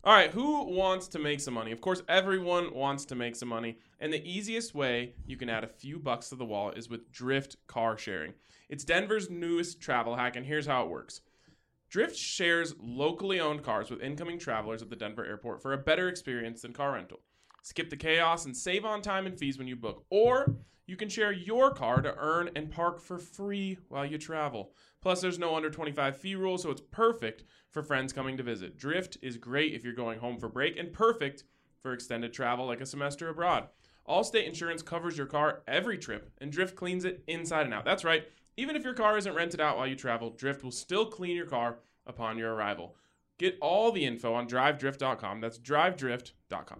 All right, who wants to make some money? Of course, everyone wants to make some money. And the easiest way you can add a few bucks to the wallet is with Drift car sharing. It's Denver's newest travel hack, and here's how it works. Drift shares locally owned cars with incoming travelers at the Denver airport for a better experience than car rental. Skip the chaos and save on time and fees when you book. Or you can share your car to earn and park for free while you travel. Plus, there's no under 25 fee rule, so it's perfect for friends coming to visit. Drift is great if you're going home for break and perfect for extended travel like a semester abroad. Allstate Insurance covers your car every trip, and Drift cleans it inside and out. That's right. Even if your car isn't rented out while you travel, Drift will still clean your car upon your arrival. Get all the info on drivedrift.com. That's drivedrift.com.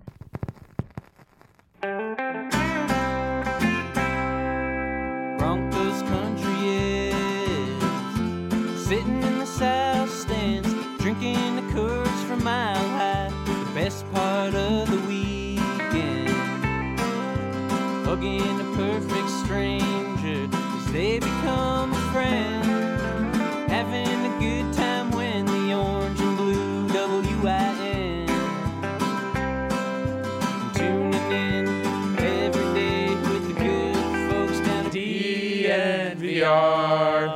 Broncos country is sitting in the south stands, drinking the Coors from Mile High. The best part of the weekend, hugging a perfect stranger as they become a friend, having a good time when the orange and blue WIN, tuning in every day with the good folks down at DNVR.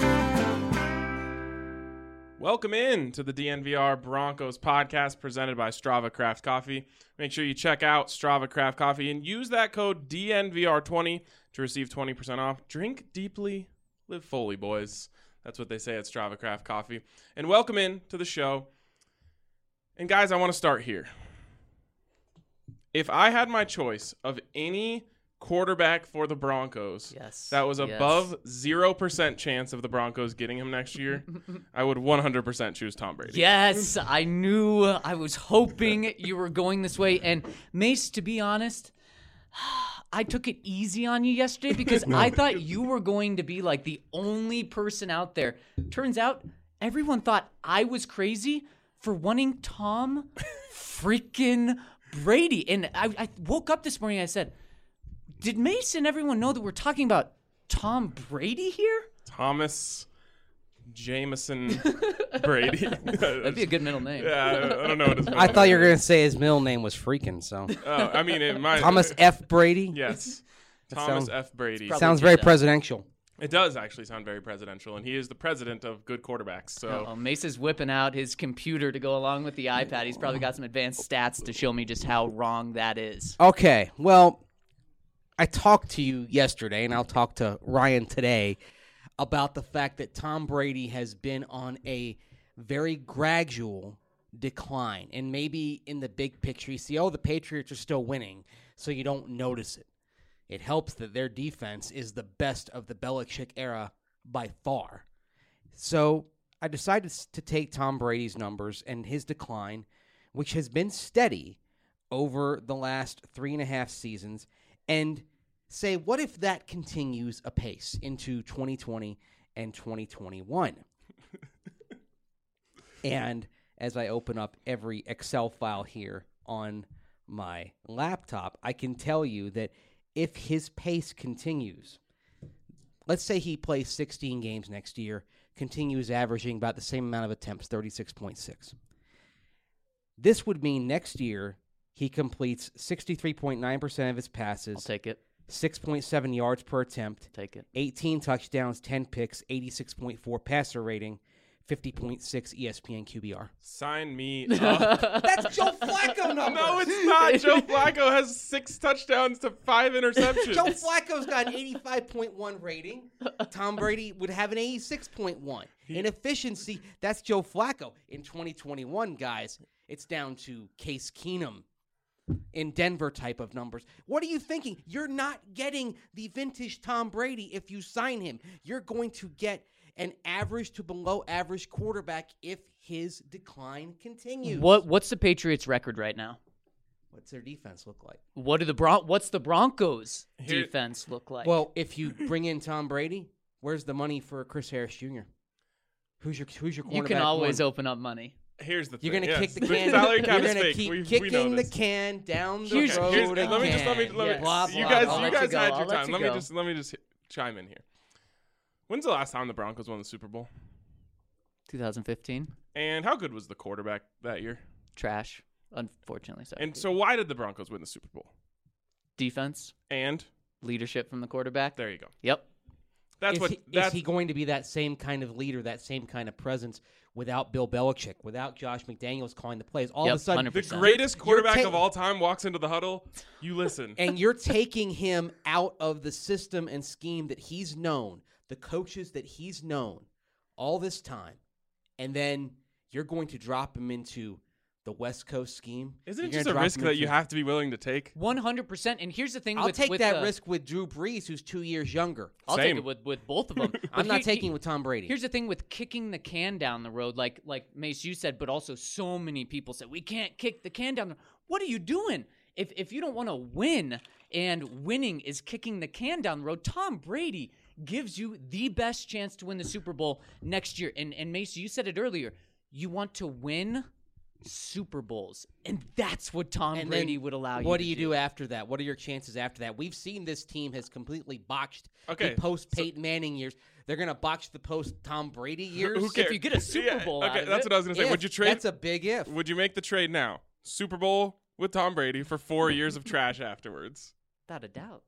Welcome in to the DNVR Broncos podcast presented by Strava Craft Coffee. Make sure you check out Strava Craft Coffee and use that code DNVR20 to receive 20% off. Drink deeply, live fully, boys. That's what they say at Strava Craft Coffee. And welcome in to the show. And guys, I want to start here. If I had my choice of any quarterback for the Broncos that was above 0% chance of the Broncos getting him next year, I would 100% choose Tom Brady. Yes, I knew. I was hoping you were going this way. And Mace, to be honest, I took it easy on you yesterday because I thought you were going to be like the only person out there. Turns out everyone thought I was crazy for wanting Tom freaking Brady. And I woke up this morning and I said, did Mace and everyone know that we're talking about Tom Brady here? Thomas Jameson Brady. That'd be a good middle name. Yeah, I don't know what his middle I thought you were name going to say his middle name was freaking, so. I mean, it might. Thomas F. Brady? Yes. That Thomas sounds- F. Brady. Sounds very presidential. It does actually sound very presidential, and he is the president of good quarterbacks. So Mace is whipping out his computer to go along with the iPad. He's probably got some advanced stats to show me just how wrong that is. Okay, well, I talked to you yesterday, and I'll talk to Ryan today about the fact that Tom Brady has been on a very gradual decline. And maybe in the big picture, you see, the Patriots are still winning, so you don't notice it. It helps that their defense is the best of the Belichick era by far. So I decided to take Tom Brady's numbers and his decline, which has been steady over the last 3.5 seasons, and say, what if that continues apace into 2020 and 2021? And as I open up every Excel file here on my laptop, I can tell you that if his pace continues, let's say he plays 16 games next year, continues averaging about the same amount of attempts, 36.6. This would mean next year he completes 63.9% of his passes. I'll take it. 6.7 yards per attempt. Take it. 18 touchdowns, 10 picks, 86.4 passer rating, 50.6 ESPN QBR. sign me up. That's Joe Flacco numbers. No, it's not. Joe Flacco has 6 touchdowns to 5 interceptions. Joe Flacco's got an 85.1 rating. Tom Brady would have an 86.1. In efficiency, that's Joe Flacco. In 2021, guys, it's down to Case Keenum in Denver type of numbers. What are you thinking? You're not getting the vintage Tom Brady if you sign him. You're going to get an average to below average quarterback if his decline continues. What's the Patriots' record right now? What's their defense look like? What's the Broncos' defense look like? Well, if you bring in Tom Brady, where's the money for Chris Harris Jr.? Who's your cornerback? You can always open up money. Here's the thing. You're going to kick the can. Salary cap You're is going to fake. keep We kicking know the this. can down the Here's- road here's- again. Let me just Yes. Blah, you blah, guys blah. I'll let had you go. your I'll let time. you Let me go. just chime in here. When's the last time the Broncos won the Super Bowl? 2015. And how good was the quarterback that year? trash, unfortunately. So And so why did the Broncos win the Super Bowl? defense, And leadership from the quarterback. there you go. Yep. That's Is he going to be that same kind of leader, that same kind of presence without Bill Belichick, without Josh McDaniels calling the plays? All Yep, of a sudden, 100%. the greatest quarterback ta- of all time walks into the huddle. You listen. and you're taking him out of the system and scheme that he's known, the coaches that he's known all this time, and then you're going to drop him into the West Coast scheme. Isn't it You're just gonna a drop risk him that into- you have to be willing to take? 100%. And here's the thing. I'll with, take with, that risk with Drew Brees, who's 2 years younger. I'll Same. take it with both of them. I'm not taking it with Tom Brady. Here's the thing with kicking the can down the road, like Mace, you said, but also so many people said, we can't kick the can down the road. What are you doing? If you don't want to win, and winning is kicking the can down the road, Tom Brady gives you the best chance to win the Super Bowl next year. And Mace, you said it earlier. You want to win Super Bowls, and that's what Tom And Brady then would allow you What to do you do after that? What are your chances after that? We've seen this team has completely botched Okay, the post Peyton Manning years. They're going to botch the post Tom Brady years. Who cares? If you get a Super Bowl out okay, of that's it. what I was gonna say. Would you trade? That's a big if. Would you make the trade now? Super Bowl with Tom Brady for 4 years of trash afterwards. Without a doubt.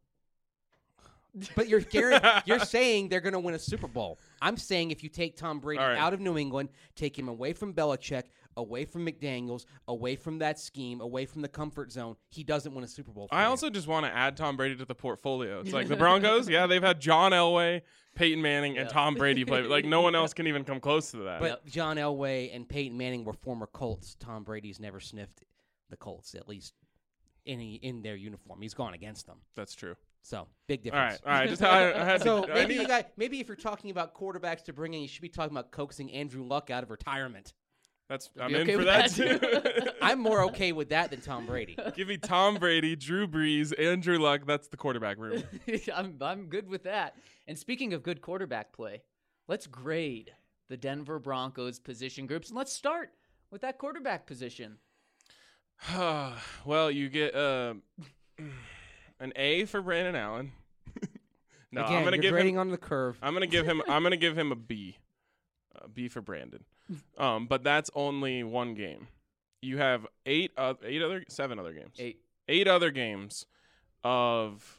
But you're saying they're going to win a Super Bowl. I'm saying if you take Tom Brady All right. out of New England, take him away from Belichick, away from McDaniels, away from that scheme, away from the comfort zone, he doesn't win a Super Bowl. For I you. also just want to add Tom Brady to the portfolio. It's like the Broncos, yeah, they've had John Elway, Peyton Manning, and Tom Brady play. Like no one else can even come close to that. But John Elway and Peyton Manning were former Colts. Tom Brady's never sniffed the Colts, at least in their uniform. He's gone against them. That's true. So big All right, difference. all right. Just I had So to, maybe if you're talking about quarterbacks to bring in, you should be talking about coaxing Andrew Luck out of retirement. I'm You in okay for with that that? too. I'm more okay with that than Tom Brady. Give me Tom Brady, Drew Brees, Andrew Luck. That's the quarterback room. I'm good with that. And speaking of good quarterback play, let's grade the Denver Broncos position groups, and let's start with that quarterback position. Well, you get an A for Brandon Allen. No, Again, I'm gonna you're give grading him. on the curve. I'm gonna give him a B. B for Brandon. But that's only one game. You have 7 other games. 8 other games of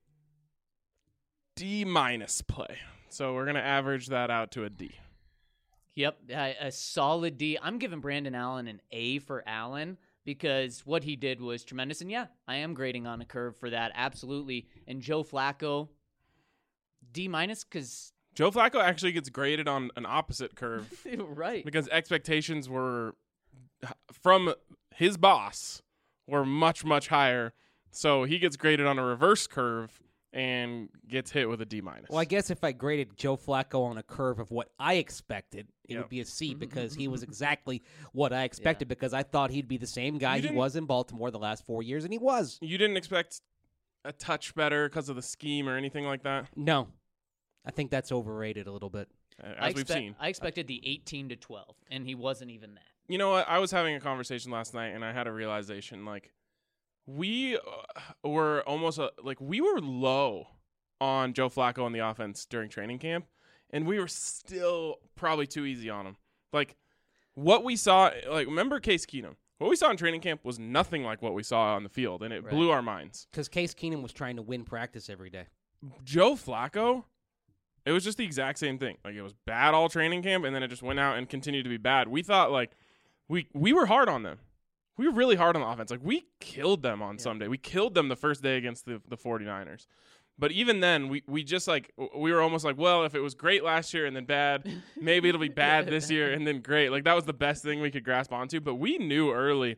D- play. So we're gonna average that out to a D. Yep, a solid D. I'm giving Brandon Allen an A for Allen because what he did was tremendous. And yeah, I am grading on a curve for that, absolutely. And Joe Flacco, D- because Joe Flacco actually gets graded on an opposite curve right. because expectations were from his boss were much, much higher. So he gets graded on a reverse curve and gets hit with a D-. Well, I guess if I graded Joe Flacco on a curve of what I expected, it Yep. would be a C because he was exactly what I expected because I thought he'd be the same guy he didn't- was in Baltimore the last 4 years, and he was. You didn't expect a touch better because of the scheme or anything like that, No. I think that's overrated a little bit. as we've seen. I expected the 18-12, and he wasn't even that. You know what? I was having a conversation last night, and I had a realization. Like, we were almost we were low on Joe Flacco on the offense during training camp, and we were still probably too easy on him. Like, what we saw, remember Case Keenum? What we saw in training camp was nothing like what we saw on the field, and it Right. blew our minds. Because Case Keenum was trying to win practice every day. Joe Flacco, it was just the exact same thing. Like, it was bad all training camp, and then it just went out and continued to be bad. We thought, we were hard on them. We were really hard on the offense. Like, we killed them on Sunday. We killed them the first day against the 49ers. But even then, we just, we were almost like, well, if it was great last year and then bad, maybe it'll be bad this year and then great. Like, that was the best thing we could grasp onto. But we knew early,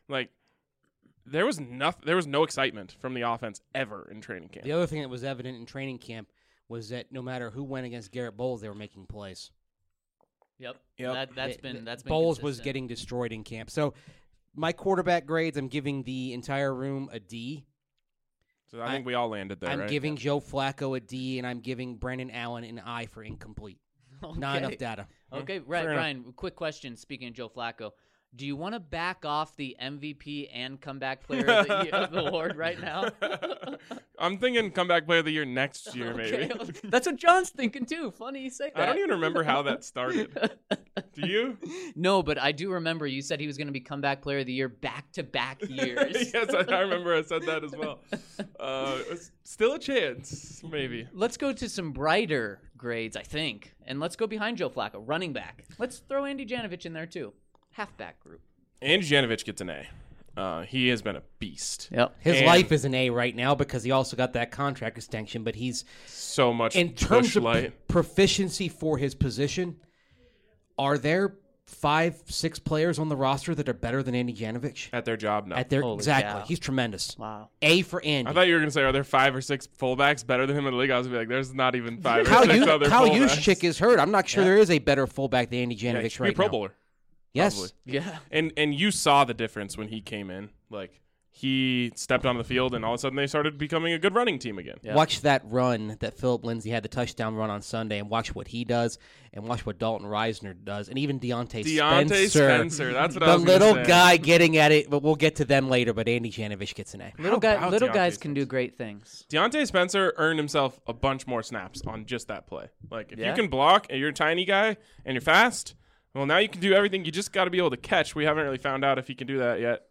there was no excitement from the offense ever in training camp. The other thing that was evident in training camp was that no matter who went against Garrett Bowles, they were making plays. Yep. Yep. That's been Bowles was consistent. getting destroyed in camp. So my quarterback grades, I'm giving the entire room a D. So I think we all landed there, I'm right? giving Joe Flacco a D, and I'm giving Brandon Allen an I for incomplete. Not enough data. Okay, fair enough. Ryan, quick question. Speaking of Joe Flacco, do you want to back off the MVP and comeback player of the award right now? I'm thinking comeback player of the year next year, maybe. That's what John's thinking too. Funny you say that. I don't even remember how that started. Do you? No, but I do remember you said he was going to be comeback player of the year back-to-back years. Yes, I remember I said that as well. It's still a chance, maybe. Let's go to some brighter grades, I think. And let's go behind Joe Flacco, running back. Let's throw Andy Janovich in there, too. Halfback group. Andy Janovich gets an A. He has been a beast. Yep. His And- life is an A right now because he also got that contract extension, but he's So much in terms push of light. proficiency for his position. Are there 5-6 players on the roster that are better than Andy Janovich? At their job now. At their Holy exactly, cow. he's tremendous. Wow. A for Andy. I thought you were going to say, are there 5 or 6 fullbacks better than him in the league? I was going to be like, there's not even 5 or Kyle, 6 other Kyle fullbacks. Juszczyk is hurt. I'm not sure there is a better fullback than Andy Yeah, he Janovich should be a right Pro now. Bowler. Yes. Probably. Yeah. And you saw the difference when he came in. Like, he stepped onto the field, and all of a sudden they started becoming a good running team again. Yeah. Watch that run that Philip Lindsay had, the touchdown run on Sunday, and watch what he does, and watch what Dalton Reisner does, and even Deontay Spencer. That's what I the was gonna little say. guy getting at it, but we'll get to them later. But Andy Janovich gets an A. Little about guys Deontay can do great things. Deontay Spencer earned himself a bunch more snaps on just that play. Like, if Yeah. you can block and you're a tiny guy and you're fast, well, now you can do everything. You just got to be able to catch. We haven't really found out if he can do that yet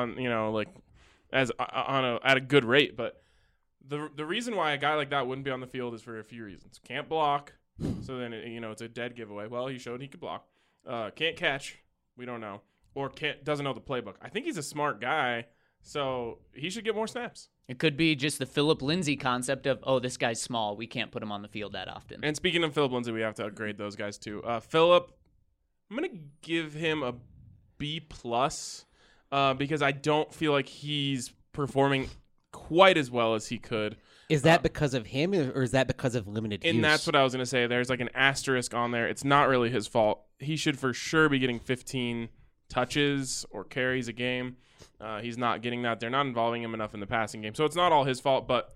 at a good rate. But the reason why a guy like that wouldn't be on the field is for a few reasons. Can't block, so then it's a dead giveaway. Well, he showed he could block. Can't catch. We don't know. Or doesn't know the playbook. I think he's a smart guy, so he should get more snaps. It could be just the Philip Lindsay concept of, oh, this guy's small. We can't put him on the field that often. And speaking of Philip Lindsay, we have to upgrade those guys too. Philip, I'm gonna give him a B plus because I don't feel like he's performing quite as well as he could. Is that because of him, or is that because of limited use? And that's what I was gonna say. There's like an asterisk on there. It's not really his fault. He should for sure be getting 15 touches or carries a game. He's not getting that. They're not involving him enough in the passing game. So it's not all his fault, but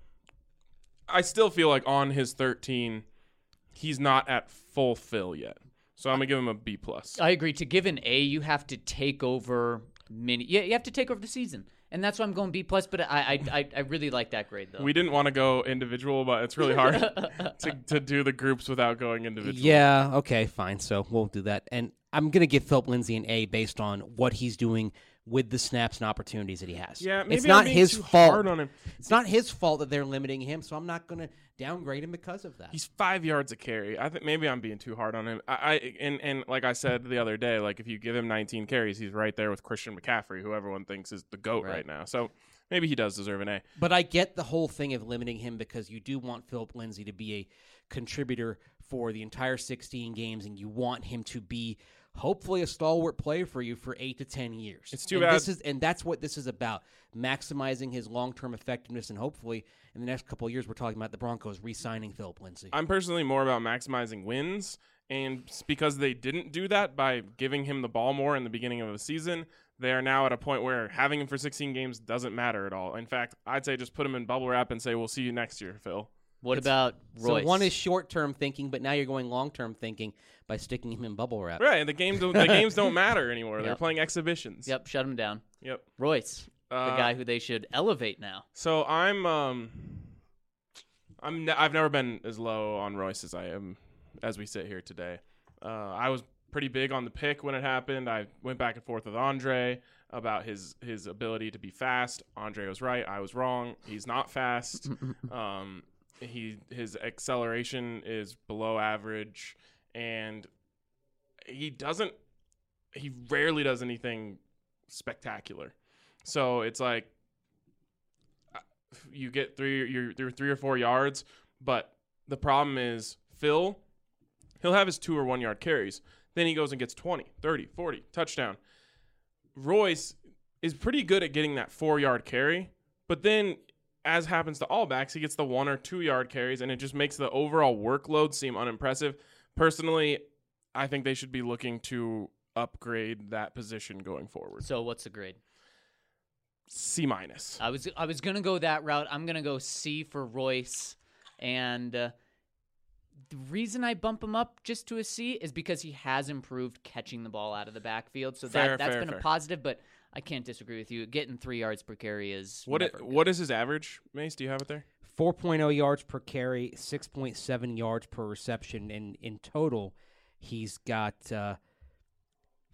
I still feel like on his 13, he's not at full fill yet. So I'm going to give him a B+. I agree. To give an A, you have to take over you have to take over the season. And that's why I'm going B+, but I really like that grade, though. We didn't want to go individual, but it's really hard to do the groups without going individual. Yeah, okay, fine. So we'll do that. And I'm going to give Philip Lindsay an A based on what he's doing with the snaps and opportunities that he has. Yeah, maybe it's not I'm being his too fault. hard on him. It's not his fault that they're limiting him, so I'm not going to downgrade him because of that. He's 5 yards a carry. I think maybe I'm being too hard on him. And like I said the other day, like if you give him 19 carries, he's right there with Christian McCaffrey, who everyone thinks is the GOAT right now. So maybe he does deserve an A. But I get the whole thing of limiting him because you do want Philip Lindsay to be a contributor for the entire 16 games, and you want him to be hopefully a stalwart player for you for 8 to 10 years. It's too bad. That's what this is about, maximizing his long-term effectiveness, and hopefully in the next couple of years we're talking about the Broncos re-signing Philip Lindsay. I'm personally more about maximizing wins, and because they didn't do that by giving him the ball more in the beginning of the season, they are now at a point where having him for 16 games doesn't matter at all. In fact, I'd say just put him in bubble wrap and say, we'll see you next year, Phil. What about Royce? So one is short-term thinking, but now you're going long-term thinking by sticking him in bubble wrap. Right, and the games don't matter anymore. They're Yep. playing exhibitions. Yep, shut him down. Yep. Royce, the guy who they should elevate now. So I've never been as low on Royce as I am as we sit here today. I was pretty big on the pick when it happened. I went back and forth with Andre about his ability to be fast. Andre was right. I was wrong. He's not fast. His acceleration is below average, and he rarely does anything spectacular. So it's like you get 3 or 4 yards, but the problem is he'll have his 2 or 1 yard carries. Then he goes and gets 20, 30, 40, touchdown. Royce is pretty good at getting that 4 yard carry, but then as happens to all backs, he gets the 1 or 2 yard carries, and it just makes the overall workload seem unimpressive. Personally, I think they should be looking to upgrade that position going forward. So what's the grade? C-. I was gonna go that route. I'm gonna go C for Royce, and the reason I bump him up just to a C is because he has improved catching the ball out of the backfield. So that's been a positive, but I can't disagree with you. Getting 3 yards per carry is What is his average, Mace? Do you have it there? 4.0 yards per carry, 6.7 yards per reception, and in total, he's got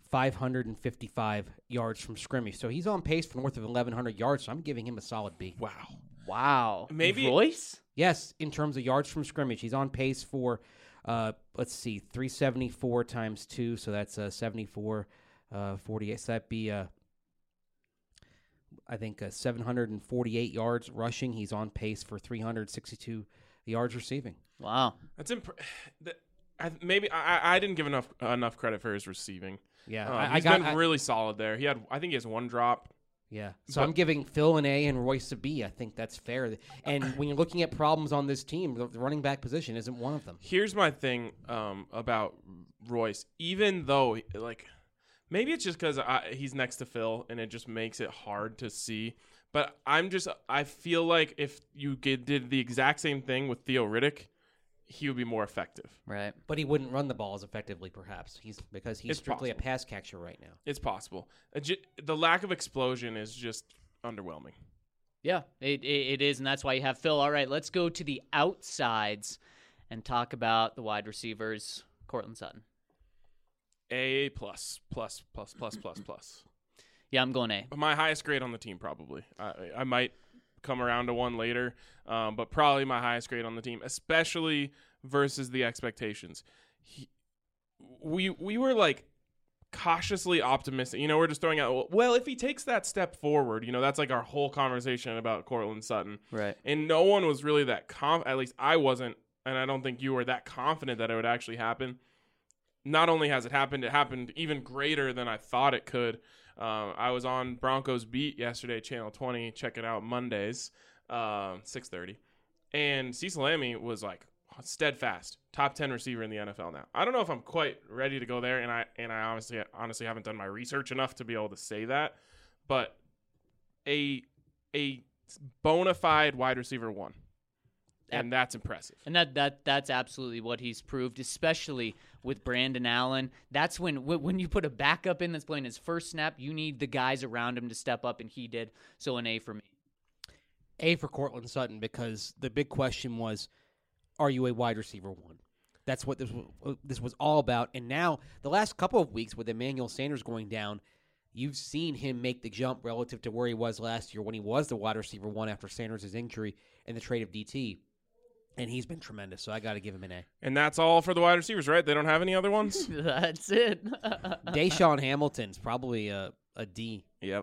555 yards from scrimmage. So he's on pace for north of 1,100 yards, so I'm giving him a solid B. Wow. Wow. Maybe- Royce? Yes, in terms of yards from scrimmage, he's on pace for, 374 times 2, so that's 74, 48. So that'd be, I think, 748 yards rushing. He's on pace for 362 yards receiving. Wow. That's maybe I didn't give enough credit for his receiving. Yeah, He's been really solid there. I think he has one drop. Yeah, so But- I'm giving Phil an A and Royce a B. I think that's fair. And when you're looking at problems on this team, the running back position isn't one of them. Here's my thing about Royce. Even though, maybe it's just because he's next to Phil and it just makes it hard to see. But I feel like if you did the exact same thing with Theo Riddick, he would be more effective. Right. But he wouldn't run the ball as effectively, perhaps. Because he's It's strictly possible. a pass catcher right now. It's possible. The lack of explosion is just underwhelming. Yeah, it is, and that's why you have Phil. All right, let's go to the outsides and talk about the wide receivers. Cortland Sutton. A plus. Yeah, I'm going A. My highest grade on the team, probably. I might come around to one later, but probably my highest grade on the team, especially versus the expectations. We were cautiously optimistic. We're just throwing out, well, if he takes that step forward, that's our whole conversation about Cortland Sutton. Right. And no one was really that at least I wasn't, and I don't think you were that confident that it would actually happen. Not only has it happened even greater than I thought it could. I was on Broncos Beat yesterday, Channel 20. Check it out Mondays, 6:30. And Cecil Lammey was steadfast, top 10 receiver in the NFL now. I don't know if I'm quite ready to go there, and I honestly haven't done my research enough to be able to say that. But a bona fide wide receiver 1. And that's impressive. And that's absolutely what he's proved, especially with Brandon Allen. That's when you put a backup in that's playing his first snap, you need the guys around him to step up, and he did. So an A for me. A for Cortland Sutton, because the big question was, are you a wide receiver 1? That's what this was all about. And now, the last couple of weeks with Emmanuel Sanders going down, you've seen him make the jump relative to where he was last year when he was the wide receiver 1 after Sanders' injury and the trade of DT. And he's been tremendous, so I got to give him an A. And that's all for the wide receivers, right? They don't have any other ones? That's it. Deshaun Hamilton's probably a D. Yep.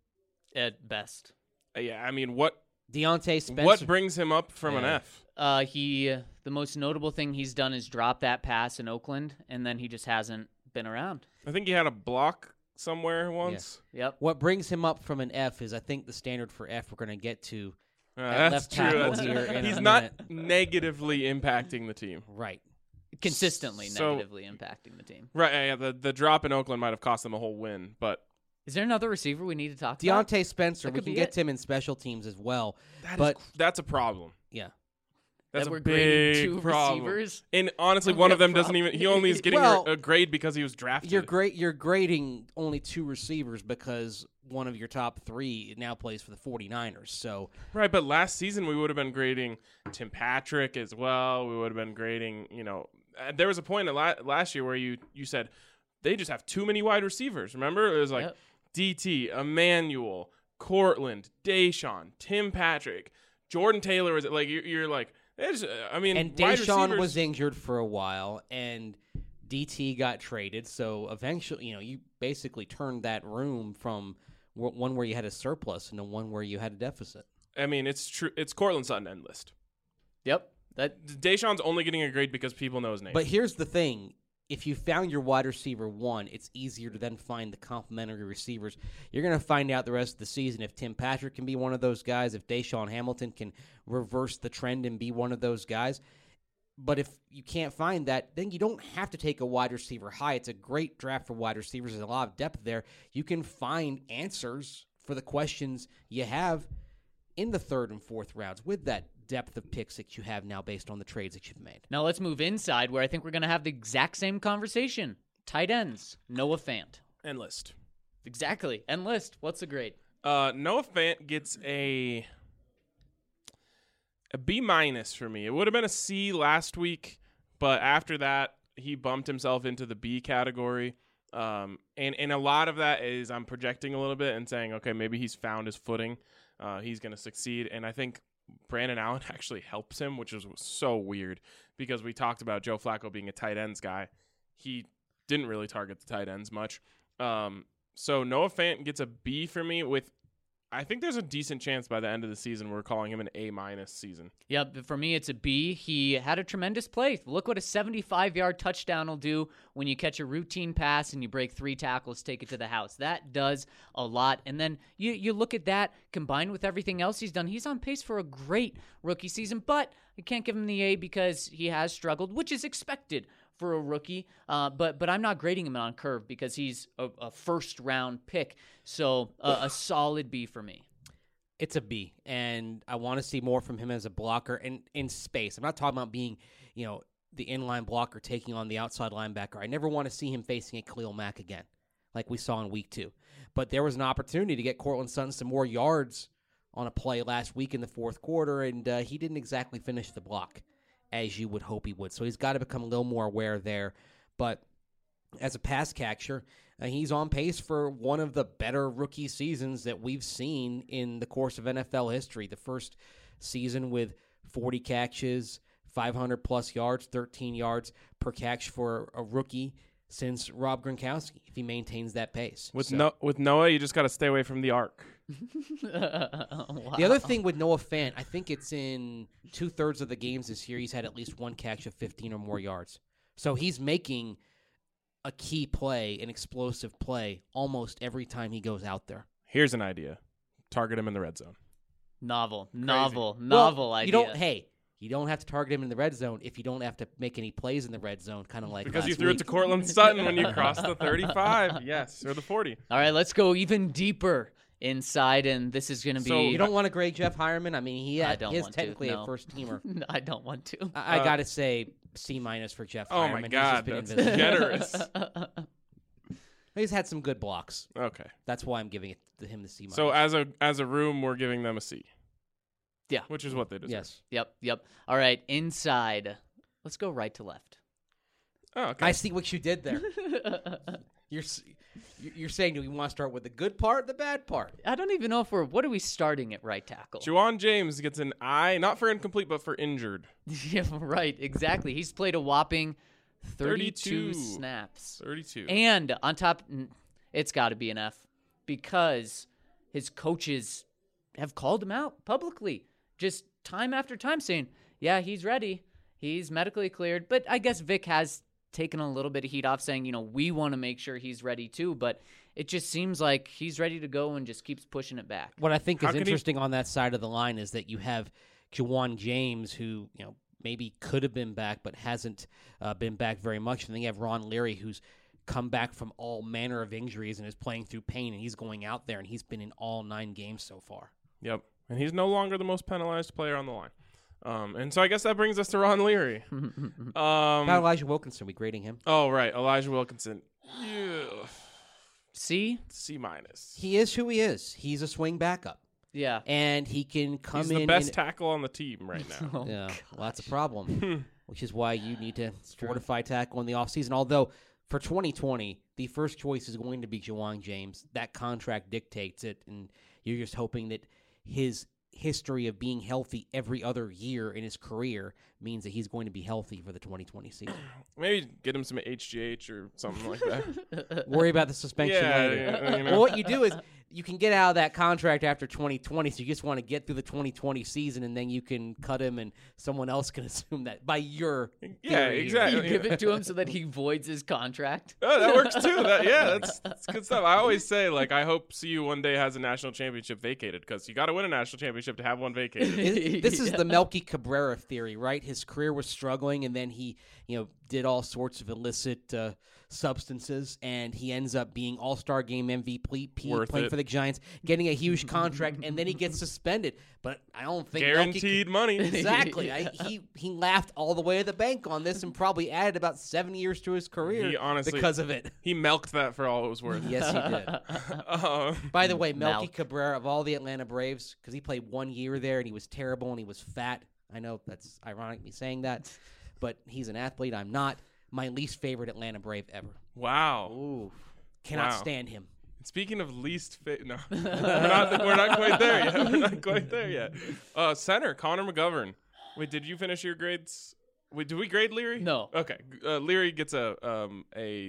At best. Yeah, I mean, what Deontay Spencer. what brings him up from an Yeah. F? The most notable thing he's done is drop that pass in Oakland, and then he just hasn't been around. I think he had a block somewhere once. Yep. What brings him up from an F is, I think, the standard for F we're going to get to. At That's left true. tackle That's here in He's a not minute. negatively impacting the team. Right. Consistently So- negatively impacting the team. Right, yeah, the drop in Oakland might have cost them a whole win, but Is there another receiver we need to talk about? Deontay Spencer, That we could can be get it. to him in special teams as well. that's a problem. Yeah. That's that a we're grading big two problem. receivers. And honestly, We one have of them doesn't even. He only is getting Well, a grade because he was drafted. You're grading only 2 receivers because one of your top 3 now plays for the 49ers. So Right, but last season we would have been grading Tim Patrick as well. We would have been grading, there was a point last year where you said they just have too many wide receivers. Remember? It was like Yep. DT, Emmanuel, Cortland, Deshaun, Tim Patrick, Jordan Taylor. Was like you're like, there's, I mean, and wide Deshaun receivers, was injured for a while, and DT got traded. So eventually, you basically turned that room from one where you had a surplus into one where you had a deficit. I mean, it's true. It's Cortland Sutton end list. Yep. That Deshaun's only getting a grade because people know his name. But here's the thing. If you found your wide receiver 1, it's easier to then find the complementary receivers. You're going to find out the rest of the season if Tim Patrick can be one of those guys, if Deshaun Hamilton can reverse the trend and be one of those guys. But if you can't find that, then you don't have to take a wide receiver high. It's a great draft for wide receivers. There's a lot of depth there. You can find answers for the questions you have in the 3rd and 4th rounds with that depth of picks that you have now based on the trades that you've made. Now let's move inside where I think we're going to have the exact same conversation. Tight ends. Noah Fant. end list. Exactly. End list. What's the grade? Noah Fant gets a B minus for me. It would have been a C last week, but after that, he bumped himself into the B category. And a lot of that is I'm projecting a little bit and saying, okay, maybe he's found his footing. He's going to succeed. And I think Brandon Allen actually helps him, which is so weird because we talked about Joe Flacco being a tight ends guy. He didn't really target the tight ends much. So Noah Fant gets a B for me with, I think there's a decent chance by the end of the season we're calling him an A- season. Yep, for me it's a B. He had a tremendous play. Look what a 75-yard touchdown will do when you catch a routine pass and you break 3 tackles, take it to the house. That does a lot. And then you look at that combined with everything else he's done. He's on pace for a great rookie season, but I can't give him the A because he has struggled, which is expected for a rookie, but I'm not grading him on curve because he's a first-round pick, so a solid B for me. It's a B, and I want to see more from him as a blocker and in space. I'm not talking about being, the inline blocker taking on the outside linebacker. I never want to see him facing a Khalil Mack again, like we saw in week 2. But there was an opportunity to get Cortland Sutton some more yards on a play last week in the fourth quarter, and he didn't exactly finish the block as you would hope he would. So he's got to become a little more aware there. But as a pass catcher, he's on pace for one of the better rookie seasons that we've seen in the course of NFL history. The first season with 40 catches, 500-plus yards, 13 yards per catch for a rookie since Rob Gronkowski, if he maintains that pace. With Noah, you just got to stay away from the arc. Wow. The other thing with Noah Fant, I think it's in 2/3 of the games this year, he's had at least one catch of 15 or more yards. So he's making a key play, an explosive play, almost every time he goes out there. Here's an idea. Target him in the red zone. Novel Well, idea. You don't have to target him in the red zone if you don't have to make any plays in the red zone, kind of like Because you last threw week. it to Cortland Sutton when you crossed the 35. Yes, or the 40. All right, let's go even deeper inside, and this is going to be... So You don't want to grade Jeff Hireman? I mean, he I don't is want to, technically no. a first-teamer. I don't want to. I got to say C- for Jeff Oh, Hireman. my He's God. just been That's invisible. generous. He's had some good blocks. Okay. That's why I'm giving it to him the C-. So as a room, we're giving them a C. Yeah. Which is what they deserve. Yes. Yep. All right, inside. Let's go right to left. Oh, okay. I see what you did there. You're saying, do we want to start with the good part or the bad part? I don't even know what are we starting at right tackle? Juwan James gets an I, not for incomplete, but for injured. Yeah, right, exactly. He's played a whopping 32 32. snaps. 32. And on top, it's got to be an F because his coaches have called him out publicly, just time after time saying, yeah, he's ready. He's medically cleared. But I guess Vic has taken a little bit of heat off saying, we want to make sure he's ready too. But it just seems like he's ready to go and just keeps pushing it back. What I think How is can he- interesting on that side of the line is that you have Juwan James, who maybe could have been back but hasn't been back very much, and then you have Ron Leary, who's come back from all manner of injuries and is playing through pain, and he's going out there and he's been in all 9 games so far. Yep. And he's no longer the most penalized player on the line. And so I guess that brings us to Ron Leary. About Elijah Wilkinson, we grading him. Oh, right. Elijah Wilkinson. Yeah. See? C-. He is who he is. He's a swing backup, Yeah. and he can come He's in. the best tackle on the team right now. Oh, Yeah, well, that's a problem, which is why you need to fortify tackle in the offseason. Although for 2020, the first choice is going to be Juwan James. That contract dictates it, and you're just hoping that his history of being healthy every other year in his career means that he's going to be healthy for the 2020 season. Maybe get him some HGH or something like that. Worry about the suspension later. Yeah, Well, what you do is you can get out of that contract after 2020, so you just want to get through the 2020 season, and then you can cut him, and someone else can assume that by your Yeah, theory. exactly. You give it to him so that he voids his contract. Oh, that works too. That's good stuff. I always say, I hope CU one day has a national championship vacated because you got to win a national championship to have one vacated. This is the Melky Cabrera theory, right? His career was struggling, and then he, did all sorts of illicit substances, and he ends up being All-Star Game MVP, Worth playing it. for the Giants, getting a huge contract, and then he gets suspended. But I don't think Guaranteed money. Exactly. Yeah. He laughed all the way to the bank on this and probably added about 7 years to his career He honestly- because of it. He milked that for all it was worth. Yes, he did. By the way, Melky Malk. Cabrera of all the Atlanta Braves, because he played 1 year there and he was terrible and he was fat. I know that's ironic me saying that, but he's an athlete. I'm not. My least favorite Atlanta Brave ever. Wow. Ooh, cannot Wow. stand him. Speaking of least fit, no, we're not quite there yet. We're not quite there yet. Center Connor McGovern. Wait, did you finish your grades? Wait, did we grade Leary? No. Okay, Leary gets I'm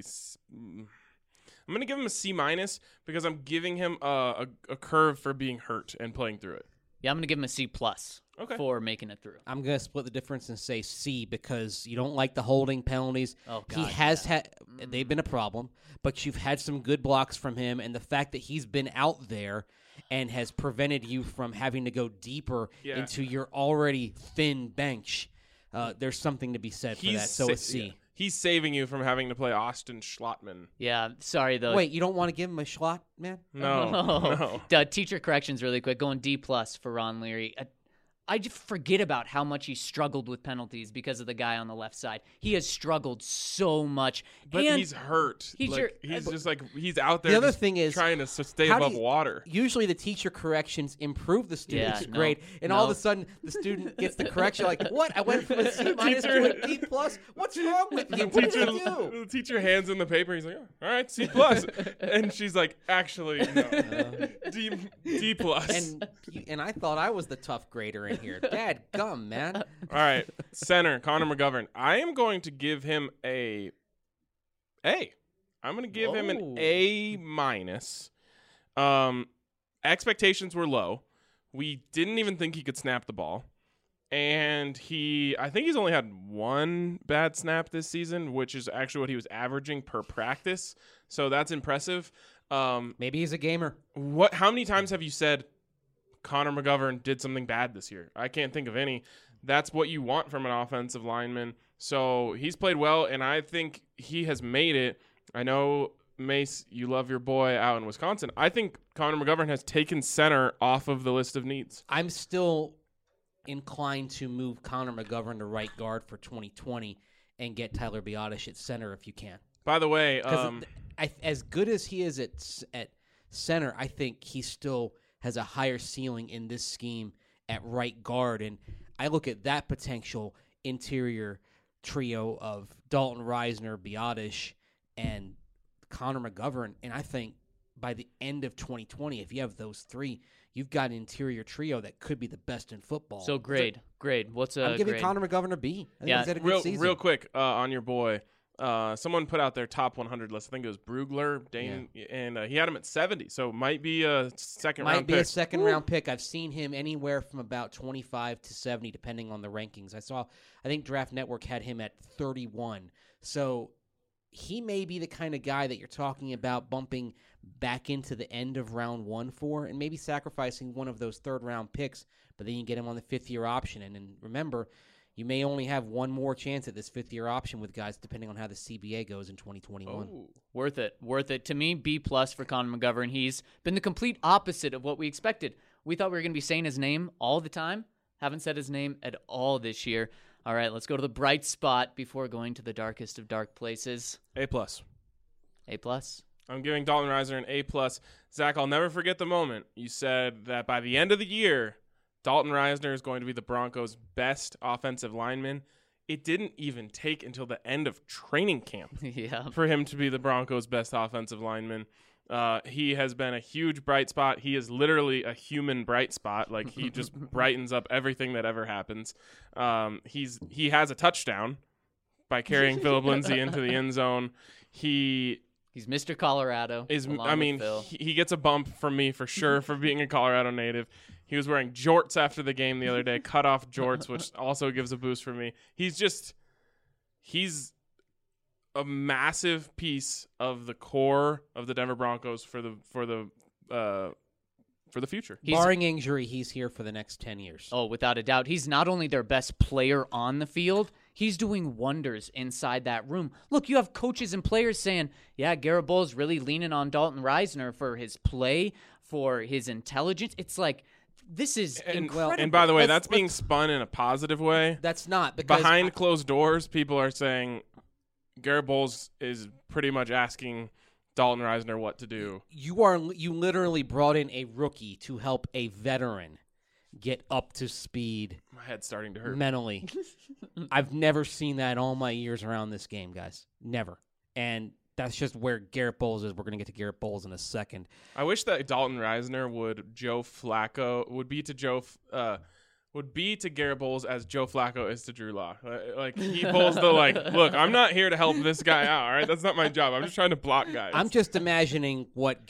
gonna give him a C- because I'm giving him a curve for being hurt and playing through it. Yeah, I'm going to give him a C+ Okay. for making it through. I'm going to split the difference and say C because you don't like the holding penalties. Oh, He God, has had, they've been a problem, but you've had some good blocks from him, and the fact that he's been out there and has prevented you from having to go deeper Yeah. into your already thin bench, there's something to be said for that. So a C. yeah. He's saving you from having to play Austin Schlottman. Yeah, sorry, though. Wait, you don't want to give him a slot, man? No, no. Teacher corrections really quick. Going D+ for Ron Leary. I just forget about how much he struggled with penalties because of the guy on the left side. He has struggled so much. But and he's hurt. he's Like, your- he's just like he's out there. The other just thing is, trying to stay how do above you- water. Usually the teacher corrections improve the student's no, grade, and all of no. a sudden the student gets the correction like, what? I went from a C- to a D+? What's wrong with you? What did I do? The teacher hands in the paper. He's like, "Oh, all right, C+." And she's like, actually, no. D+. And I thought I was the tough grader in here. Dad gum, man. All right, center Connor McGovern. I am going to give him a A. I'm going to give him an Whoa. A-. Expectations were low. We didn't even think he could snap the ball. And I think he's only had one bad snap this season, which is actually what he was averaging per practice. So that's impressive. Maybe he's a gamer. How many times have you said Connor McGovern did something bad this year? I can't think of any. That's what you want from an offensive lineman. So he's played well, and I think he has made it. I know, Mace, you love your boy out in Wisconsin. I think Connor McGovern has taken center off of the list of needs. I'm still inclined to move Connor McGovern to right guard for 2020 and get Tyler Biotish at center if you can. By the way, Because as good as he is at center, I think he still has a higher ceiling in this scheme at right guard. And I look at that potential interior trio of Dalton Reisner, Biotish, and Connor McGovern. And I think by the end of 2020, if you have those three, you've got an interior trio that could be the best in football. So grade. What's a I'm giving grade? Connor McGovern a B. I think Yeah. he's had a good season. real quick on your boy. Someone put out their top 100 list. I think it was Brugler, Dane, and he had him at 70. So might be a second Might round be pick. a second round pick. I've seen him anywhere from about 25 to 70, depending on the rankings. I think Draft Network had him at 31. So he may be the kind of guy that you're talking about bumping back into the end of round 1 for, and maybe sacrificing one of those third round picks, but then you get him on the 5th-year option. And remember, you may only have one more chance at this 5th-year option with guys, depending on how the CBA goes in 2021. Oh. Worth it. To me, B+ for Connor McGovern. He's been the complete opposite of what we expected. We thought we were going to be saying his name all the time. Haven't said his name at all this year. All right, let's go to the bright spot before going to the darkest of dark places. A+. A+. I'm giving Dalton Reisner an A+. Zach, I'll never forget the moment you said that by the end of the year, Dalton Reisner is going to be the Broncos' best offensive lineman. It didn't even take until the end of training camp Yeah. for him to be the Broncos' best offensive lineman. He has been a huge bright spot. He is literally a human bright spot. Like, he just brightens up everything that ever happens. He has a touchdown by carrying Philip Lindsay into the end zone. He's Mr. Colorado. along with Phil. he gets a bump from me for sure for being a Colorado native. He was wearing jorts after the game the other day, cut off jorts, which also gives a boost for me. He's a massive piece of the core of the Denver Broncos for the future. Barring injury, he's here for the next 10 years. Oh, without a doubt. He's not only their best player on the field, he's doing wonders inside that room. Look, you have coaches and players saying, yeah, Garrett Bowles really leaning on Dalton Reisner for his play, for his intelligence. It's like, this is incredible. And by the way, Let's- that's being spun in a positive way. That's not because Behind closed doors, people are saying Garrett Bowles is pretty much asking Dalton Reisner what to do. you literally brought in a rookie to help a veteran get up to speed My head's starting to hurt. mentally. I've never seen that in all my years around this game, guys. Never. And that's just where Garrett Bowles is. We're going to get to Garrett Bowles in a second. I wish that Dalton Reisner would be to Garrett Bowles as Joe Flacco is to Drew Lock. Like he pulls the look, I'm not here to help this guy out. All right, that's not my job. I'm just trying to block guys. I'm just imagining what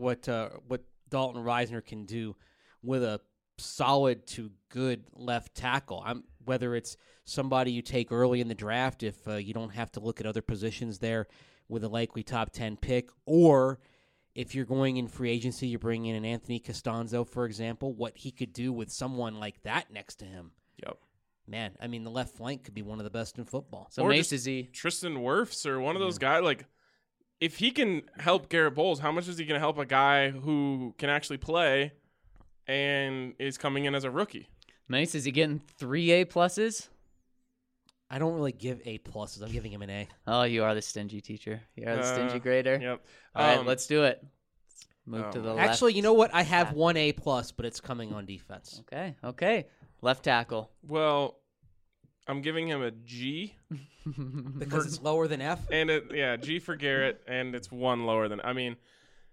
Dalton Reisner can do with a solid to good left tackle. Whether it's somebody you take early in the draft if you don't have to look at other positions there with a likely top 10 pick, or if you're going in free agency, you're bringing in an Anthony Costanzo, for example, what he could do with someone like that next to him. Yep. Man, I mean, the left flank could be one of the best in football. So Or Mace, just is he? Tristan Wirfs or one of those guys. Like, if he can help Garrett Bowles, how much is he going to help a guy who can actually play and is coming in as a rookie? Mace, is he getting 3 A pluses? I don't really give A pluses. I'm giving him an A. Oh, you are the stingy teacher. You are the stingy grader. Yep. All right, let's do it. Let's move to the left. Actually, you know what? I have 1 A plus, but it's coming on defense. Okay. Left tackle. Well, I'm giving him a G. Because it's lower than F? And G for Garrett, and it's 1 lower than. I mean,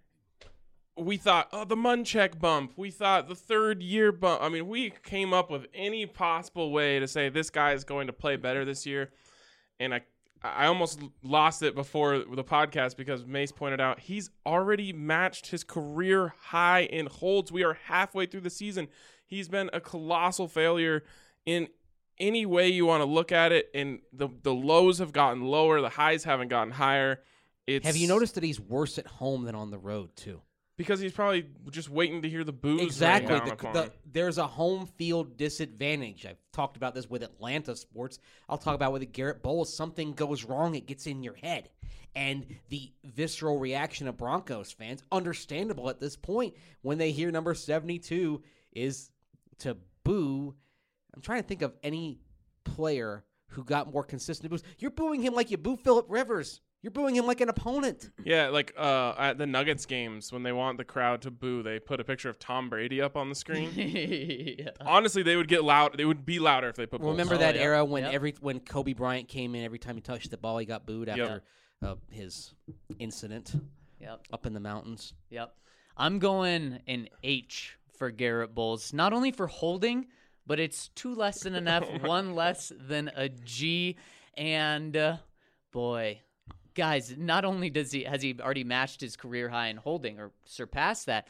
we thought, the Munchak bump. We thought the 3rd year bump. I mean, we came up with any possible way to say this guy is going to play better this year. And I almost lost it before the podcast because Mace pointed out he's already matched his career high in holds. We are halfway through the season. He's been a colossal failure in any way you want to look at it. And the lows have gotten lower. The highs haven't gotten higher. Have you noticed that he's worse at home than on the road, too? Because he's probably just waiting to hear the boos. Exactly. Rain down upon him. There's a home field disadvantage. I've talked about this with Atlanta sports. I'll talk about with Garrett Bowles. Something goes wrong, it gets in your head. And the visceral reaction of Broncos fans, understandable at this point, when they hear number 72 is to boo. I'm trying to think of any player who got more consistent boos. You're booing him like you boo Phillip Rivers. You're booing him like an opponent. Yeah, like at the Nuggets games, when they want the crowd to boo, they put a picture of Tom Brady up on the screen. Yeah. Honestly, they would get loud. They would be louder if they put. Remember Bulls. that yeah. era when Yep. when Kobe Bryant came in, every time he touched the ball, he got booed after his incident Yep. up in the mountains. Yep. I'm going an H for Garrett Bowles, not only for holding, but it's 2 less than an F, 1 less than a G, and boy. Guys, not only has he already matched his career high in holding or surpassed that,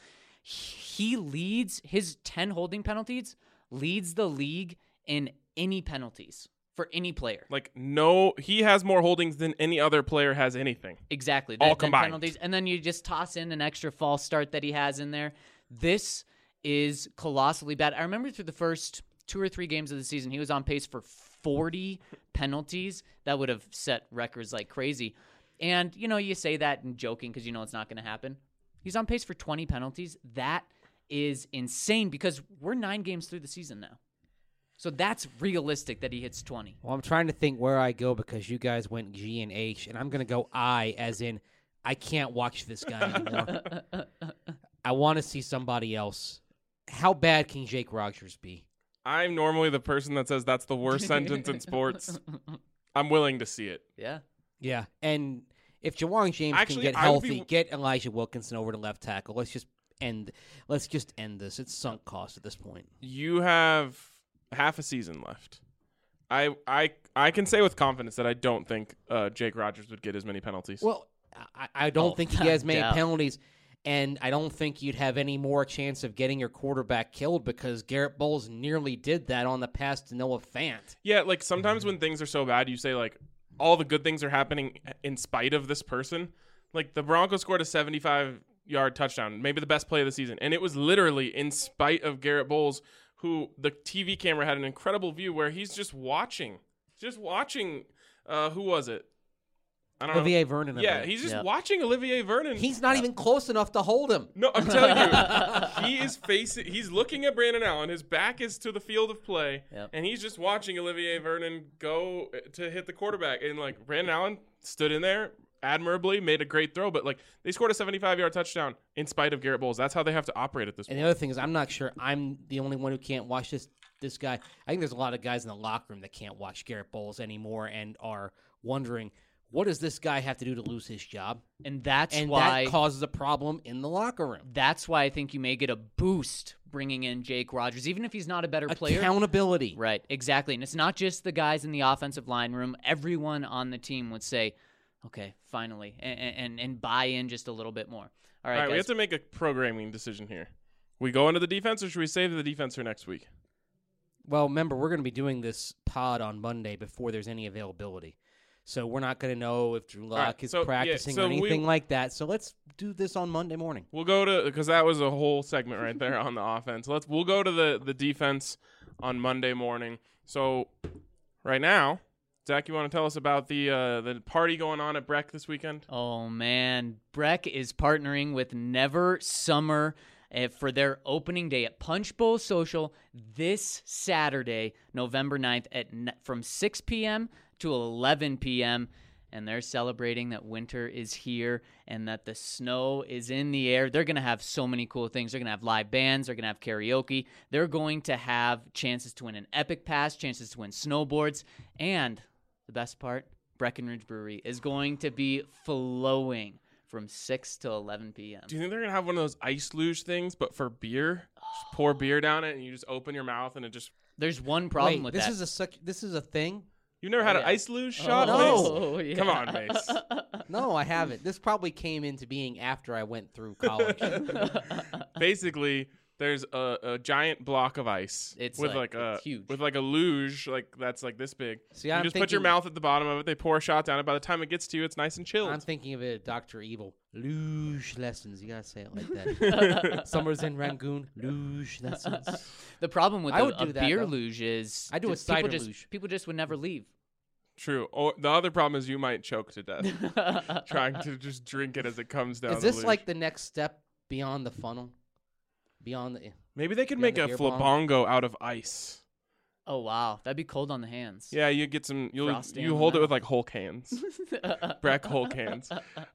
he leads his 10 holding penalties, leads the league in any penalties for any player. Like no, he has more holdings than any other player has anything. Exactly. All than combined. Penalties, and then you just toss in an extra false start that he has in there. This is colossally bad. I remember through the first 2 or 3 games of the season, he was on pace for 40 penalties. That would have set records like crazy. And, you say that and joking because it's not going to happen. He's on pace for 20 penalties. That is insane because we're 9 games through the season now. So that's realistic that he hits 20. Well, I'm trying to think where I go because you guys went G and H, and I'm going to go I, as in I can't watch this guy anymore. I want to see somebody else. How bad can Jake Rogers be? I'm normally the person that says that's the worst sentence in sports. I'm willing to see it. Yeah. Yeah, and if Jawon James Actually, can get I would healthy, be- get Elijah Wilkinson over to left tackle. Let's just end this. It's sunk cost at this point. You have half a season left. I can say with confidence that I don't think Jake Rogers would get as many penalties. Well, I don't think he has many doubt. penalties, and I don't think you'd have any more chance of getting your quarterback killed because Garrett Bowles nearly did that on the pass to Noah Fant. Yeah, like sometimes when things are so bad, you say like all the good things are happening in spite of this person. Like the Broncos scored a 75-yard touchdown, maybe the best play of the season, and it was literally in spite of Garrett Bowles, who the TV camera had an incredible view where he's just watching. Who was it? I don't Olivier know. Vernon. I Yeah, believe. he's just Yep. watching Olivier Vernon. He's not even close enough to hold him. No, I'm telling you, he's looking at Brandon Allen. His back is to the field of play, Yep. and he's just watching Olivier Vernon go to hit the quarterback. And like Brandon Allen stood in there admirably, made a great throw, but like they scored a 75-yard touchdown in spite of Garrett Bowles. That's how they have to operate at this And point. the other thing is, I'm not sure I'm the only one who can't watch this guy. I think there's a lot of guys in the locker room that can't watch Garrett Bowles anymore and are wondering what does this guy have to do to lose his job? And that's And why that causes a problem in the locker room. that's why I think you may get a boost bringing in Jake Rogers, even if he's not a better player. Accountability. Right, exactly. And it's not just the guys in the offensive line room. Everyone on the team would say, okay, finally, and buy in just a little bit more. All right, we have guys. to make a programming decision here. We go into the defense, or should we save the defense for next week? Well, remember, we're going to be doing this pod on Monday before there's any availability. So we're not going to know if Drew Lock right, is so, yeah, practicing so or anything like that. So let's do this on Monday morning. We'll go to, because that was a whole segment right there on the offense. We'll go to the defense on Monday morning. So right now, Zach, you want to tell us about the party going on at Breck this weekend? Oh, man. Breck is partnering with Never Summer for their opening day at Punch Bowl Social this Saturday, November 9th, from 6 p.m. to 11 p.m., and they're celebrating that winter is here and that the snow is in the air. They're going to have so many cool things. They're going to have live bands. They're going to have karaoke. They're going to have chances to win an Epic Pass, chances to win snowboards, and the best part, Breckenridge Brewery is going to be flowing from 6 to 11 p.m. Do you think they're going to have one of those ice luge things, but for beer? Just pour beer down it, and you just open your mouth, and it just... There's one problem with this that. This is a thing? You've never had an yeah. ice luge shot, No. Mace? yeah. Come on, Mace. No, I haven't. This probably came into being after I went through college. Basically, there's a giant block of ice It's with like- a it's huge. with like a luge that's like this big. See, you I'm just put your thinking- mouth at the bottom of it. They pour a shot down it. By the time it gets to you, it's nice and chilled. I'm thinking of it as Dr. Evil. Luge lessons. You got to say it like that. Summers in Rangoon. Luge lessons. The problem with I a would do that, beer though. luge is I do a just people cider just- luge. People just would never leave. True. Or the other problem is you might choke to death trying to just drink it as it comes down. Is the this luge. like the next step beyond the funnel? Beyond the... Maybe they could beyond make the a beer bong? flabongo out of ice. Oh wow, that'd be cold on the hands. Yeah, you get some. Frosty You on hold the it with mouth. like whole cans. Breck whole cans.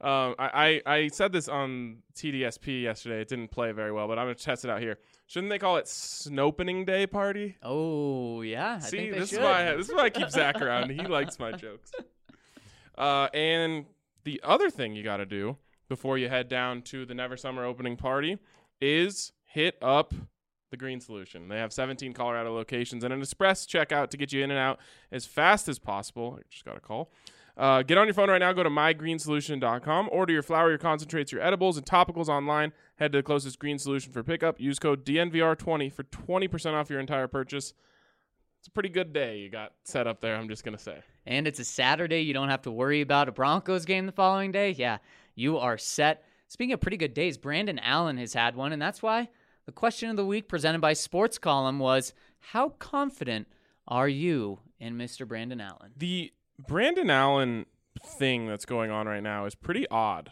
I said this on TDSP yesterday. It didn't play very well, but I'm gonna test it out here. Shouldn't they call it Snopening Day Party? Oh yeah, I See, think they this should. is why I keep Zach around. He likes my jokes. And the other thing you got to do before you head down to the Never Summer opening party is hit up the Green Solution. They have 17 Colorado locations and an express checkout to get you in and out as fast as possible. I just got a call. Get on your phone right now. Go to mygreensolution.com. Order your flour, your concentrates, your edibles, and topicals online. Head to the closest Green Solution for pickup. Use code DNVR20 for 20% off your entire purchase. It's a pretty good day you got set up there, I'm just going to say. And it's a Saturday. You don't have to worry about a Broncos game the following day. Yeah, you are set. Speaking of pretty good days, Brandon Allen has had one, and that's why the question of the week presented by Sports Column was, how confident are you in Mr. Brandon Allen? The Brandon Allen thing that's going on right now is pretty odd.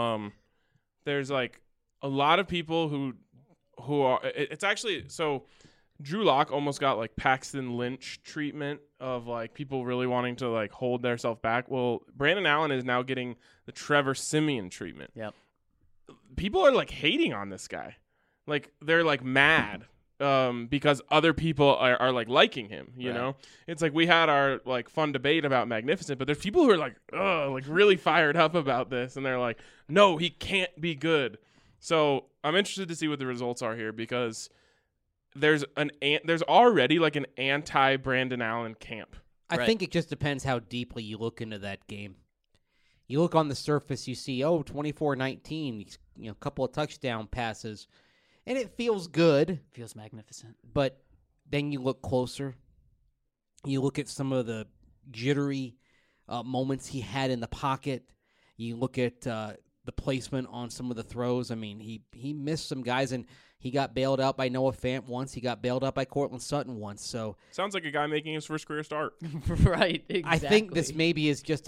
There's like a lot of people who are it's actually so Drew Lock almost got like Paxton Lynch treatment of like people really wanting to like hold themselves back. Well, Brandon Allen is now getting the Trevor Siemian treatment. Yep. People are like hating on this guy. Like they're like mad because other people are like liking him, you Right. know? It's like we had our like fun debate about Magnificent, but there's people who are like, like really fired up about this, and they're like, no, he can't be good. So I'm interested to see what the results are here because there's already like an anti-Brandon Allen camp. I Right. think it just depends how deeply you look into that game. You look on the surface, you see, 24-19, a couple of touchdown passes, and it feels good. Feels magnificent. But then you look closer. You look at some of the jittery moments he had in the pocket. You look at the placement on some of the throws. I mean, he missed some guys, and he got bailed out by Noah Fant once. He got bailed out by Cortland Sutton once. So Sounds like a guy making his first career start. Right, exactly. I think this maybe is just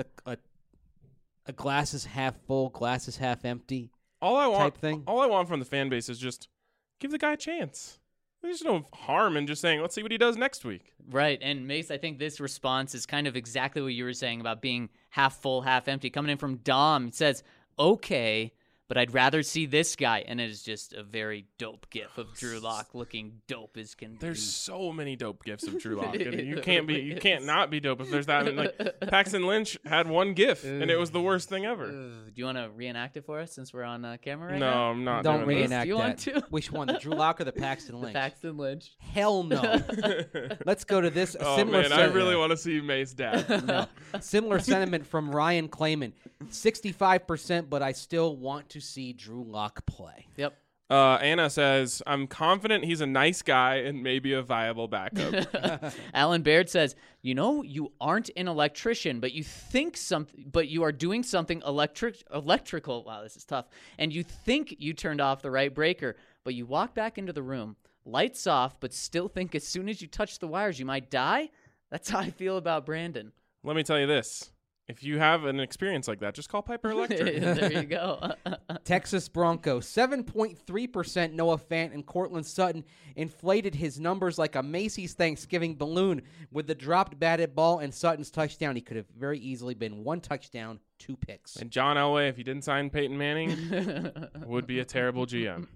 a glass is half full, glass is half empty All I want type thing. All I want from the fan base is just give the guy a chance. There's no harm in just saying, let's see what he does next week. Right, and Mace, I think this response is kind of exactly what you were saying about being half full, half empty. Coming in from Dom, it says, okay, but I'd rather see this guy. And it is just a very dope gif of Drew Lock looking dope as can There's be. so many dope gifs of Drew Lock. You can't not be dope if there's that many. Like, Paxton Lynch had one gif, and it was the worst thing ever. Do you want to reenact it for us since we're on camera right No, now? I'm not. Don't doing reenact Do you that. want to? Which one, the Drew Lock or the Paxton Lynch? Paxton Lynch. Hell no. Let's go to this. Oh Similar man, I really want to see Mace dad. No. Similar sentiment from Ryan Clayman. 65%, but I still want to see Drew Lock play. Yep. Anna says, "I'm confident he's a nice guy and maybe a viable backup." Alan Baird says, you aren't an electrician, but you think but you are doing something electrical. Wow, this is tough. And you think you turned off the right breaker, but you walk back into the room, lights off, but still think as soon as you touch the wires, you might die. That's how I feel about Brandon. Let me tell you this. If you have an experience like that, just call Piper Electric. There you go. Texas Broncos, 7.3%. Noah Fant and Cortland Sutton inflated his numbers like a Macy's Thanksgiving balloon with the dropped batted ball and Sutton's touchdown. He could have very easily been 1 touchdown, 2 picks. And John Elway, if he didn't sign Peyton Manning, would be a terrible GM.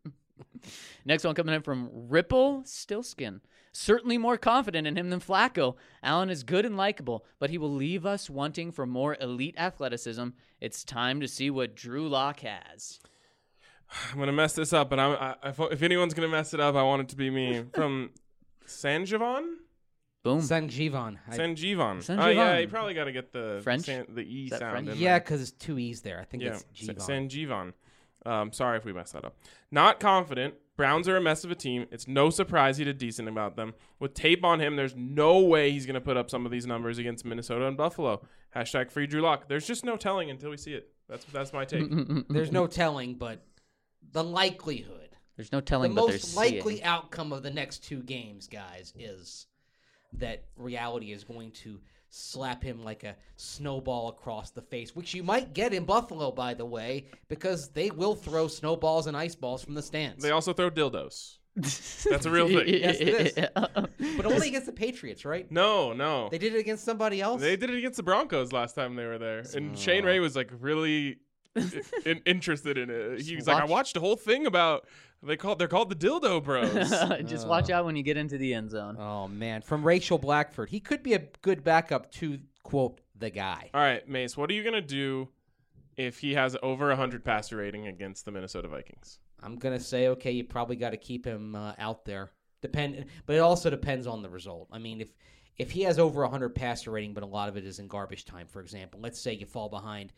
Next one coming in from Ripple Stillskin. Certainly more confident in him than Flacco. Allen is good and likable, but he will leave us wanting for more elite athleticism. It's time to see what Drew Lock has. I'm going to mess this up, but if anyone's going to mess it up, I want it to be me. From Sanjivan? Boom. Sanjivan. Sanjivan. Sanjivan. Oh, yeah, you probably got to get the French? the E Is that sound French? in Yeah, there. because it's 2 E's there. I think Yeah, it's Jivan. Sanjivan. Sorry if we messed that up. Not confident. Browns are a mess of a team. It's no surprise he did decent about them. With tape on him, there's no way he's going to put up some of these numbers against Minnesota and Buffalo. # free Drew Lock. There's just no telling until we see it. That's my take. There's no telling, but the likelihood. There's no The telling, but there's most likely seeing. outcome of the next 2 games, guys, is that reality is going to slap him like a snowball across the face, which you might get in Buffalo, by the way, because they will throw snowballs and ice balls from the stands. They also throw dildos. That's a real thing. Yes, it is. But only against the Patriots, right? No. They did it against somebody else? They did it against the Broncos last time they were there. And Shane Ray was like really interested in it. He was like, I watched a whole thing about they're called the Dildo Bros. Just watch out when you get into the end zone. Oh, man. From Rachel Blackford. He could be a good backup to, quote, the guy. All right, Mace, what are you going to do if he has over 100 passer rating against the Minnesota Vikings? I'm going to say, okay, you probably got to keep him out there. But it also depends on the result. I mean, if he has over 100 passer rating, but a lot of it is in garbage time, for example, let's say you fall behind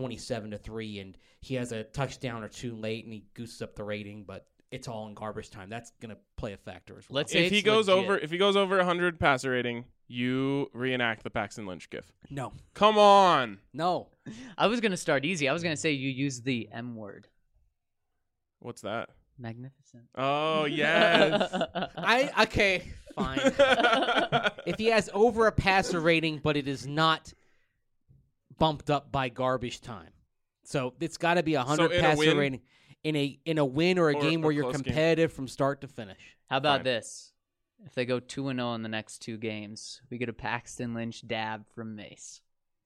27-3 and he has a touchdown or 2 late and he gooses up the rating, but it's all in garbage time. That's going to play a factor as well. Let's say If he it's goes legit. over 100 passer rating, you reenact the Paxton Lynch gif. No. Come on. No. I was going to start easy. I was going to say you use the M word. What's that? Magnificent. Oh, yes. Okay, fine. If he has over a passer rating, but it is not bumped up by garbage time. So it's got to be 100 in a passer win? rating in a win or a Or game a where you're close game. competitive from start to finish. How about Fine. this? If they go 2-0 in the next 2 games, we get a Paxton Lynch dab from Mace.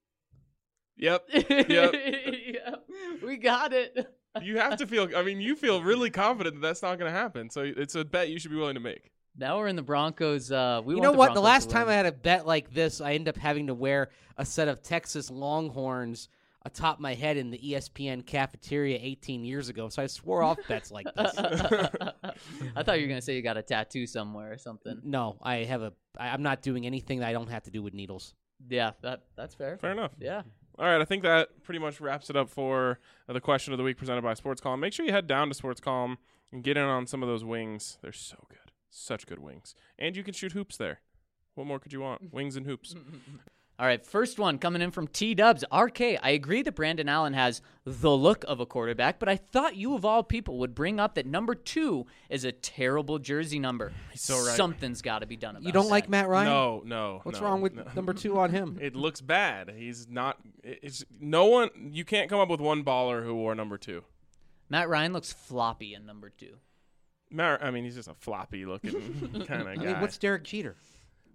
Yep. Yeah, we got it. You have to feel, you feel really confident that that's not going to happen. So it's a bet you should be willing to make. Now we're in the Broncos. You want know what? Broncos The last to time win. I had a bet like this, I ended up having to wear a set of Texas Longhorns atop my head in the ESPN cafeteria 18 years ago. So I swore off bets like this. I thought you were gonna say you got a tattoo somewhere or something. No, I'm not doing anything that I don't have to do with needles. Yeah, that's fair. Fair enough. Yeah. All right, I think that pretty much wraps it up for the question of the week presented by Sports Column. Make sure you head down to Sports Column and get in on some of those wings. They're so good. Such good wings. And you can shoot hoops there. What more could you want? Wings and hoops. All right, first one coming in from T-Dubs. RK, I agree that Brandon Allen has the look of a quarterback, but I thought you of all people would bring up that number 2 is a terrible jersey number. He's so right. Something's got to be done about You don't that. like Matt Ryan? No. What's no, wrong with no. number 2 on him? It looks bad. He's not. It's no one. You can't come up with one baller who wore number 2. Matt Ryan looks floppy in number 2. He's just a floppy looking kind of guy. I mean, what's Derek Jeter?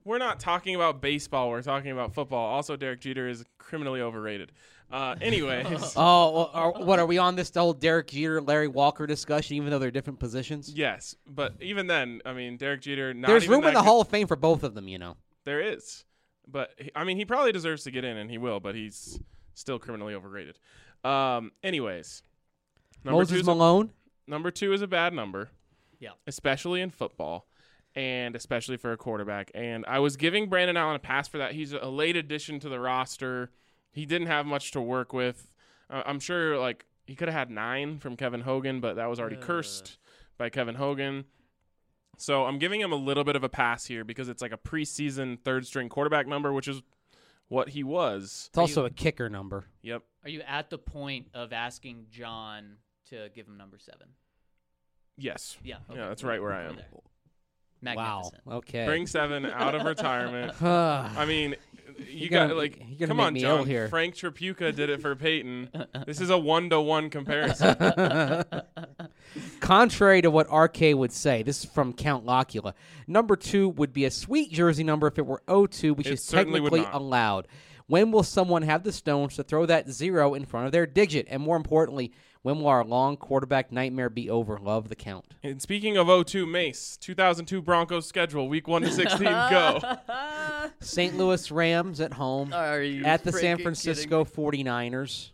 We're not talking about baseball. We're talking about football. Also, Derek Jeter is criminally overrated. Anyways. Oh, what are we on this whole Derek Jeter, Larry Walker discussion? Even though they're different positions. Yes, but even then, I mean, Derek Jeter. There's room in the Hall of Fame for both of them. There is, but I mean, he probably deserves to get in, and he will. But he's still criminally overrated. Anyways, Moses Malone. Number 2 is a bad number. Yeah. Especially in football. And especially for a quarterback. And I was giving Brandon Allen a pass for that. He's a late addition to the roster. He didn't have much to work with. I'm sure, like, he could have had 9 from Kevin Hogan, but that was already cursed by Kevin Hogan. So I'm giving him a little bit of a pass here because it's like a preseason third-string quarterback number, which is what he was. It's also a kicker number. Yep. Are you at the point of asking John to give him number 7? Yes. Yeah. Okay. Yeah, that's right where I am. Magnificent. Wow. Okay. Bring 7 out of retirement. I I mean, you You're got gonna- like, you're gonna come make on, me John. ill here. Frank Tripucka did it for Peyton. This is a 1-to-1 comparison. Contrary to what RK would say, this is from Count Locula. Number 2 would be a sweet jersey number if it were 02, which It is certainly would technically not. allowed. When will someone have the stones to throw that 0 in front of their digit? And more importantly, when will our long quarterback nightmare be over? Love the count. And speaking of 02, Mace, 2002 Broncos schedule, week 1 to 16, go. St. Louis Rams at home. Are you At the San freaking Francisco 49ers.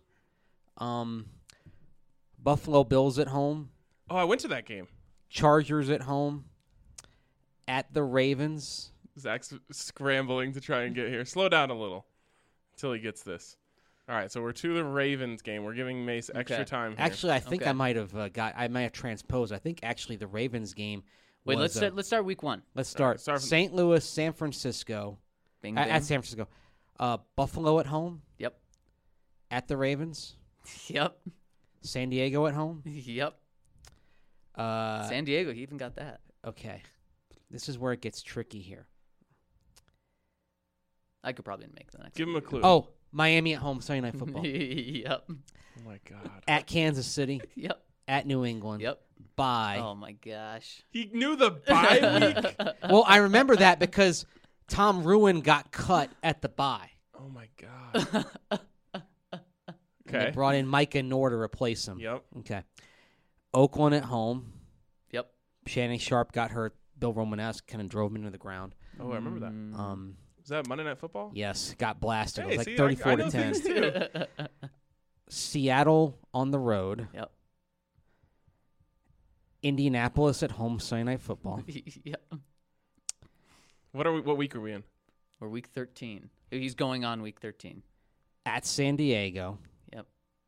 Buffalo Bills at home. Oh, I went to that game. Chargers at home. At the Ravens. Zach's scrambling to try and get here. Slow down a little until he gets this. All right, so we're to the Ravens game. We're giving Mace extra Okay. time here. Actually, I think Okay. I might have I might have transposed. I think actually the Ravens game. Wait, was, let's start week 1. let's start. start from- St. Louis, San Francisco. Bing, At bing. San Francisco. Buffalo at home. Yep. At the Ravens. Yep. San Diego at home. Yep. Uh, San Diego, he even got that. okay. This is where it gets tricky here. I could probably make the next Give him a clue. Oh, Miami at home, Sunday Night Football. Yep. Oh my God. At Kansas City. Yep. At New England. Yep. Bye. Oh my gosh. He knew the bye week? Well, I remember that because Tom Ruin got cut at the bye. Oh my God. And Okay. they brought in Micah Noor to replace him. Yep. Okay. Oakland at home. Yep. Shannon Sharp got hurt. Bill Romanesque kind of drove him into the ground. Oh, I remember that. Was that Monday Night Football? Yes, got blasted. Hey, it was see, like 34 I to know 10. things too. Seattle on the road. Yep. Indianapolis at home, Sunday Night Football. Yep. What week are we in? We're week 13. He's going on week 13. At San Diego. Yep.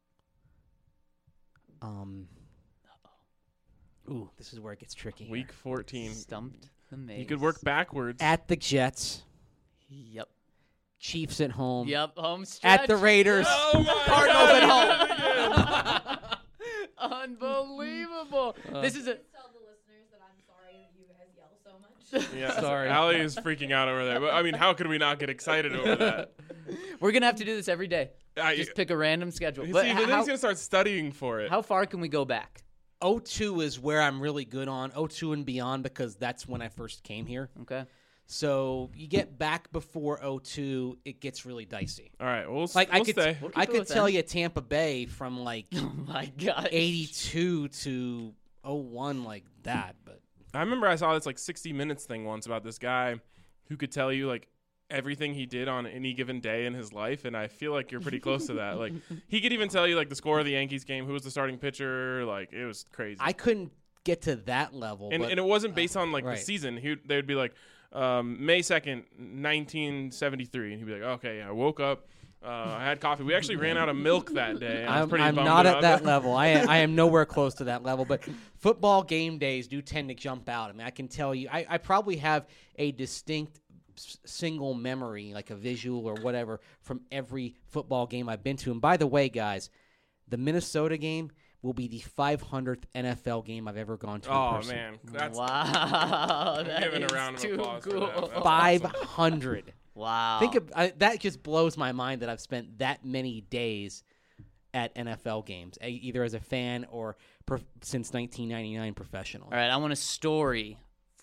Ooh, this is where it gets tricky. Week 14. Stumped the maze. You could work backwards. At the Jets. Yep. Chiefs at home. Yep. Home stretch. At the Raiders. Oh my Cardinals God, at home. Unbelievable. This is a. Tell the listeners that I'm sorry that you guys yell so much. Yeah, Sorry. Allie is freaking out over there. But I mean, how could we not get excited over that? We're gonna have to do this every day. I, Just pick a random schedule. see, But but then how, he's gonna start studying for it. how far can we go back? 02 is where I'm really good on. 02 and beyond because that's when I first came here. Okay. So you get back before 02, it gets really dicey. All right, we'll Like we'll I could, stay. We'll keep I it could within. tell you Tampa Bay from like Oh my gosh. 82 to 01 like that, but I remember I saw this like 60 Minutes thing once about this guy who could tell you like everything he did on any given day in his life, and I feel like you're pretty close to that. Like he could even tell you like the score of the Yankees game, who was the starting pitcher. Like it was crazy. I couldn't get to that level. and but it wasn't based on like right. the season. They'd be like May 2nd, 1973, and he'd be like, okay, I woke up. I had coffee. We actually ran out of milk that day. And I was I'm pretty bummed not at about that level. I am nowhere close to that level. But football game days do tend to jump out. I mean, I can tell you, I probably have a distinct single memory, like a visual or whatever, from every football game I've been to. And by the way, guys, the Minnesota game will be the 500th NFL game I've ever gone to. in Oh person. man, that's Wow. I'm that giving a is round of too applause for cool. that. That's 500. Wow. Think of that. Just blows my mind that I've spent that many days at NFL games, either as a fan or since 1999 professional. All right, I want a story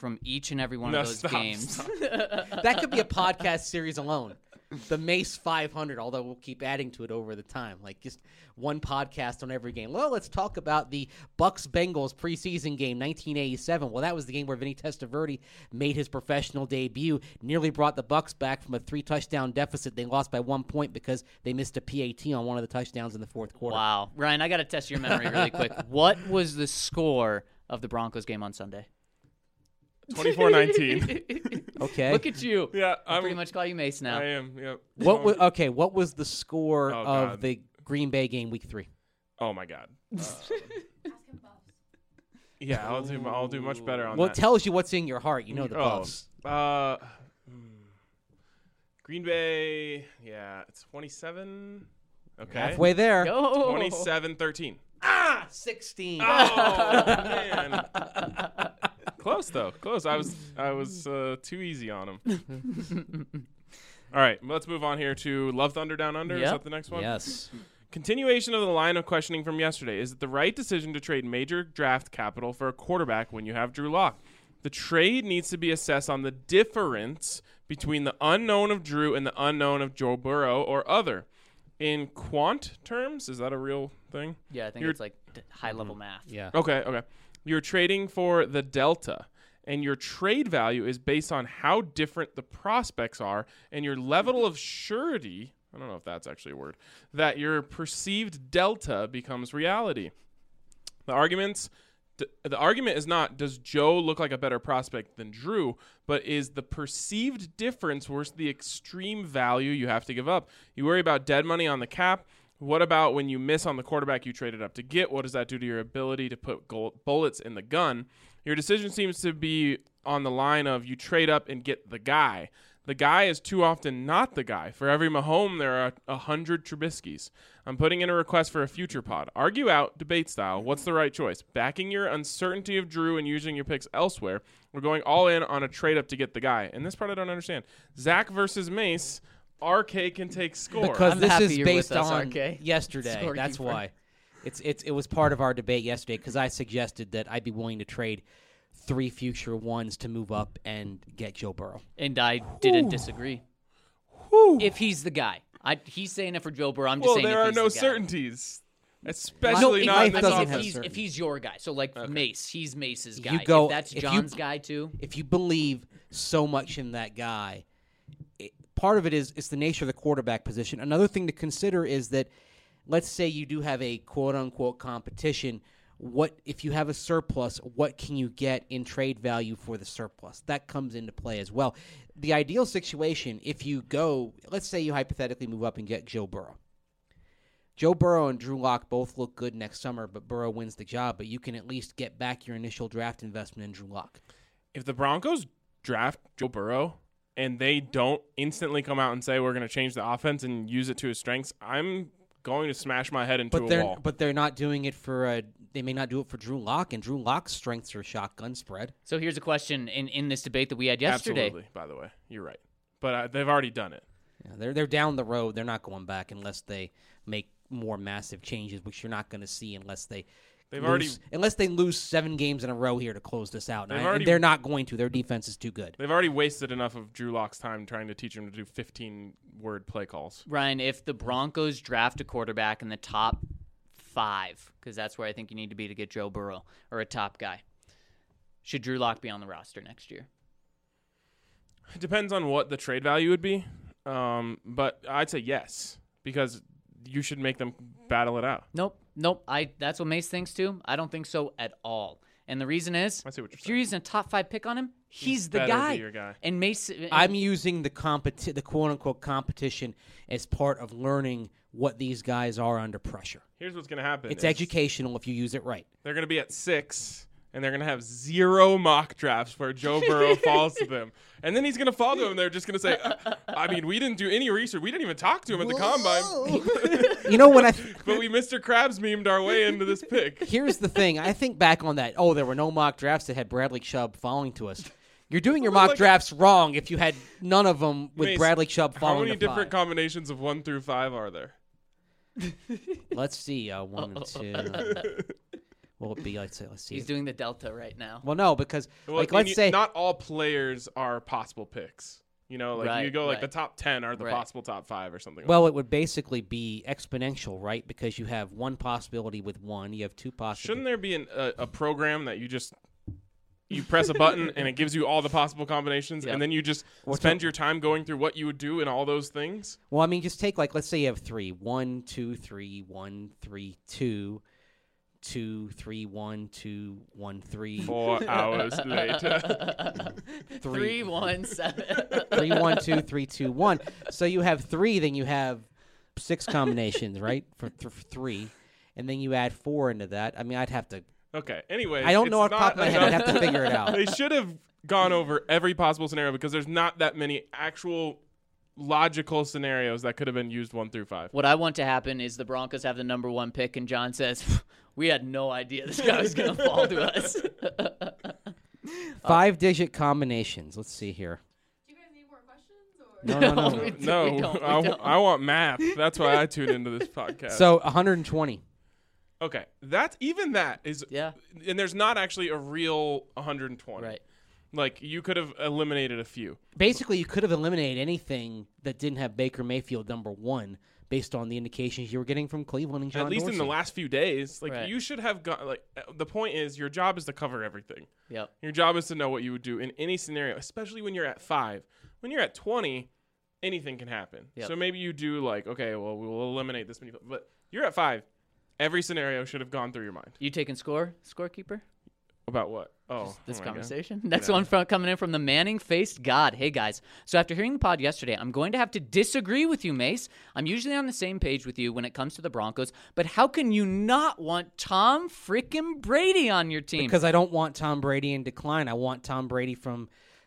from each and every one No, of those stop, games. stop. That could be a podcast series alone. The Mace 500, although we'll keep adding to it over the time. Like just one podcast on every game. Well, let's talk about the Bucks-Bengals preseason game, 1987. Well, that was the game where Vinny Testaverde made his professional debut, nearly brought the Bucks back from a 3-touchdown deficit. They lost by 1 point because they missed a PAT on one of the touchdowns in the fourth quarter. Wow. Ryan, I got to test your memory really quick. What was the score of the Broncos game on Sunday? 24-19. Okay. Look at you. Yeah, I I'm pretty much call you Mace now. I am. Yep. What was the score Oh, of God. the Green Bay game week 3? Oh my God. Ask him Buffs. Yeah, I'll do much better on Well, that. it tells you what's in your heart. You know the Buffs. Green Bay. Yeah, it's 27. Okay. Halfway there. Go. 27-13. 16. Oh man. Close though. Close. I was too easy on him. All right, let's move on here to Love Thunder Down Under. Is Yep. that the next one? Yes. Continuation of the line of questioning from yesterday. Is it the right decision to trade major draft capital for a quarterback when you have Drew Lock? The trade needs to be assessed on the difference between the unknown of Drew and the unknown of Joe Burrow or other. In quant terms, is that a real thing? Yeah, I think You're- it's like high-level math. Yeah. Okay. You're trading for the delta, and your trade value is based on how different the prospects are and your level of surety. I don't know if that's actually a word, that your perceived delta becomes reality. The argument is not, does Joe look like a better prospect than Drew, but is the perceived difference worth the extreme value you have to give up? You worry about dead money on the cap. What about when you miss on the quarterback you traded up to get? What does that do to your ability to put bullets in the gun? Your decision seems to be on the line of you trade up and get the guy. The guy is too often not the guy. For every Mahomes, there are 100 Trubiskys. I'm putting in a request for a future pod. Argue out, debate style. What's the right choice? Backing your uncertainty of Drew and using your picks elsewhere. We're going all in on a trade up to get the guy. And this part I don't understand. Zach versus Mace. RK can take score. Because I'm this happy is you're based with us, on RK. yesterday. That's Scorekeeper. why. It was part of our debate yesterday because I suggested that I'd be willing to trade 3 future ones to move up and get Joe Burrow. And I didn't disagree. If he's the guy. He's saying it for Joe Burrow. I'm just well, saying there if are he's no the guy. certainties. No, Especially not in life this doesn't if have offense. he's, if he's your guy. So like Mace, he's Mace's guy. You go- if that's if you- John's guy too. If you believe so much in that guy, part of it is it's the nature of the quarterback position. Another thing to consider is that let's say you do have a quote-unquote competition. What if you have a surplus, what can you get in trade value for the surplus? That comes into play as well. The ideal situation, if you go, let's say you hypothetically move up and get Joe Burrow. Joe Burrow and Drew Lock both look good next summer, but Burrow wins the job. But you can at least get back your initial draft investment in Drew Lock. If the Broncos draft Joe Burrow and they don't instantly come out and say we're going to change the offense and use it to his strengths, I'm going to smash my head into a wall. But they're not doing it for they may not do it for Drew Lock, and Drew Lock's strengths are shotgun spread. So here's a question in this debate that we had yesterday. Absolutely, by the way. You're right. But they've already done it. Yeah, they're down the road. They're not going back unless they make more massive changes, which you're not going to see unless they lose 7 games in a row here to close this out. And they're not going to. Their defense is too good. They've already wasted enough of Drew Lock's time trying to teach him to do 15-word play calls. Ryan, if the Broncos draft a quarterback in the top 5, because that's where I think you need to be to get Joe Burrow or a top guy, should Drew Lock be on the roster next year? It depends on what the trade value would be, but I'd say yes, because you should make them battle it out. Nope. That's what Mace thinks too. I don't think so at all. And the reason is, I see what you're if you're saying. using a top 5 pick on him, he's the better guy. be your guy. And Mace, I'm using the quote-unquote competition as part of learning what these guys are under pressure. Here's what's going to happen. It's is educational if you use it right. They're going to be at 6, and they're going to have 0 mock drafts where Joe Burrow falls to them. And then he's going to fall to them. They're just going to say, I mean, we didn't do any research. We didn't even talk to him at the combine. You know when But we Mr. Krabs memed our way into this pick. Here's the thing. I think back on that. Oh, there were no mock drafts that had Bradley Chubb falling to us. You're doing your mock drafts wrong if you had none of them with Mace, Bradley Chubb How falling many to different 5. combinations of 1 through 5 are there? Let's see. 1 and 2. will it be? Let's see. He's doing the Delta right now. Well, no, because Well, like and let's say not all players are possible picks. You know, like Right, you go like right. the top 10 are the Right. possible top 5 or something. well, it would basically be exponential, right? Because you have one possibility with one, you have two possibilities. Shouldn't there be a program that you press a button and it gives you all the possible combinations, Yep. and then you just spend your time going through what you would do in all those things? Well, I mean, just take like let's say you have 3, 1, 2, 3, 1, 3, 2, 2, 3, 1, 2, 1, 3, 4 hours later. 3-1-7. 3, 1, 2, 3, 2, 1. So you have 3, then you have 6 combinations, right? For 3, and then you add 4 into that. I mean, I'd have to. Okay. Anyway, I don't know off the top of my head. I'd have to figure it out. They should have gone over every possible scenario because there's not that many actual logical scenarios that could have been used 1 through 5. What I want to happen is the Broncos have the number 1 pick, and John says, "We had no idea this guy was going to fall to us." 5-digit combinations. Let's see here. Do you guys need more questions? Or? No. We don't, No, we don't. I want math. That's why I tune into this podcast. So 120. Okay, that is Yeah, and there's not actually a real 120. right. Like you could have eliminated a few. Basically, you could have eliminated anything that didn't have Baker Mayfield number 1 based on the indications you were getting from Cleveland and John At least in the Dorsey. last few days, like Right. you should have got like the point is your job is to cover everything. Yep. Your job is to know what you would do in any scenario, especially when you're at 5. When you're at 20, anything can happen. Yep. So maybe you do like, okay, well, we will eliminate this many, but you're at 5. Every scenario should have gone through your mind. You taking scorekeeper? About what? Oh, This oh my God. conversation. Next Yeah. one coming in from the Manning-faced God. Hey, guys. So after hearing the pod yesterday, I'm going to have to disagree with you, Mace. I'm usually on the same page with you when it comes to the Broncos, but how can you not want Tom frickin' Brady on your team? Because I don't want Tom Brady in decline. I want Tom Brady from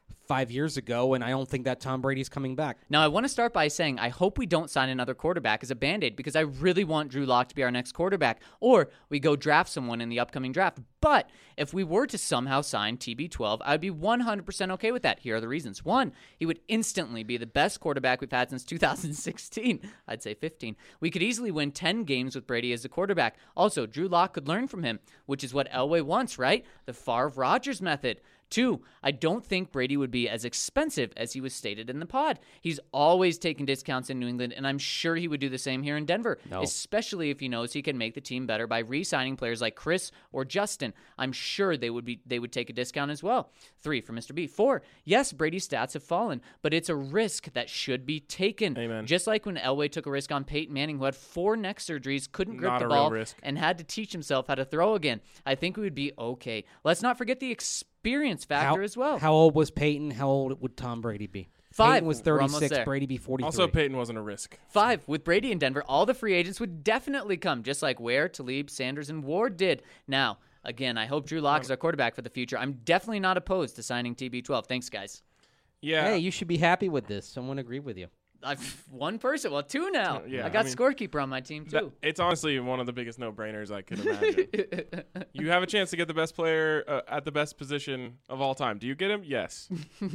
5 years ago, and I don't think that Tom Brady's coming back. Now, I want to start by saying I hope we don't sign another quarterback as a Band-Aid because I really want Drew Lock to be our next quarterback, or we go draft someone in the upcoming draft. But if we were to somehow sign TB12, I'd be 100% okay with that. Here are the reasons. 1, he would instantly be the best quarterback we've had since 2016. I'd say 15. We could easily win 10 games with Brady as the quarterback. Also, Drew Lock could learn from him, which is what Elway wants, right? The Favre-Rodgers method. 2, I don't think Brady would be as expensive as he was stated in the pod. He's always taken discounts in New England, and I'm sure he would do the same here in Denver, especially if he knows he can make the team better by re-signing players like Chris or Justin. I'm sure they would take a discount as well. 3, for Mr. B. 4, yes, Brady's stats have fallen, but it's a risk that should be taken. Amen. Just like when Elway took a risk on Peyton Manning, who had 4 neck surgeries, couldn't grip Not the a real ball, risk. and had to teach himself how to throw again. I think we would be okay. Let's not forget the experience factor as well. How old was Peyton? How old would Tom Brady be? 5. Peyton was We're almost 36. there. Brady be 43. Also, Peyton wasn't a risk. 5, with Brady in Denver, all the free agents would definitely come, just like Ware, Talib, Sanders, and Ward did. Now, again, I hope Drew Lock is our quarterback for the future. I'm definitely not opposed to signing TB12. Thanks, guys. Yeah. Hey, you should be happy with this. Someone agreed with you. I've 1 person, well, 2 now. Yeah, I got I mean, scorekeeper on my team too. It's honestly one of the biggest no-brainers I could imagine. You have a chance to get the best player at the best position of all time. Do you get him? Yes.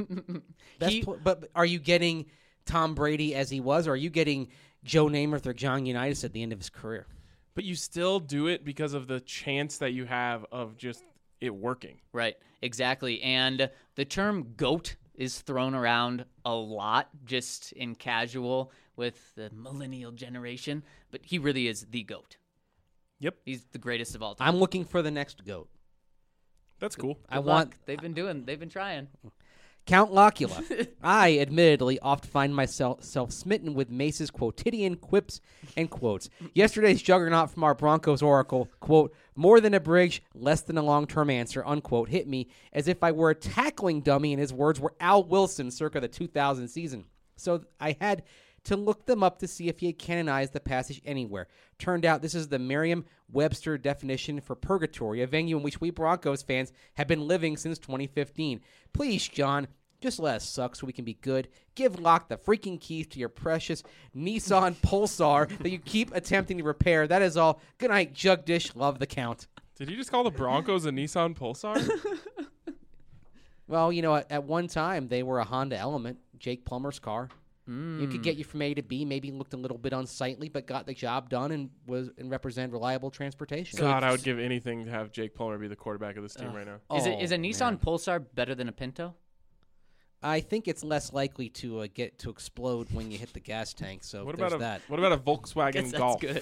But are you getting Tom Brady as he was, or are you getting Joe Namath or John Unitas at the end of his career? But you still do it because of the chance that you have of just it working. Right, exactly. And the term GOAT is thrown around a lot just in casual with the millennial generation, but he really is the GOAT. Yep. He's the greatest of all time. I'm looking for the next GOAT. That's cool. I Good want luck. They've been trying. Count Locula. I admittedly oft find myself smitten with Mace's quotidian quips and quotes. Yesterday's juggernaut from our Broncos oracle, quote, more than a bridge, less than a long-term answer, unquote, hit me as if I were a tackling dummy and his words were Al Wilson circa the 2000 season. So I had to look them up to see if he had canonized the passage anywhere. Turned out this is the Merriam-Webster definition for purgatory, a venue in which we Broncos fans have been living since 2015. Please, John, just let us suck so we can be good. Give Locke the freaking keys to your precious Nissan Pulsar that you keep attempting to repair. That is all. Good night, Jugdish. Love the count. Did you just call the Broncos a Nissan Pulsar? Well, you know, at one time, they were a Honda Element, Jake Plummer's car. It could get you from A to B. Maybe looked a little bit unsightly, but got the job done and represent reliable transportation. God, I would give anything to have Jake Plummer be the quarterback of this team right now. Is a Nissan Pulsar better than a Pinto? I think it's less likely to get to explode when you hit the gas tank. So What there's about that. what about a Volkswagen Guess Golf? that's good.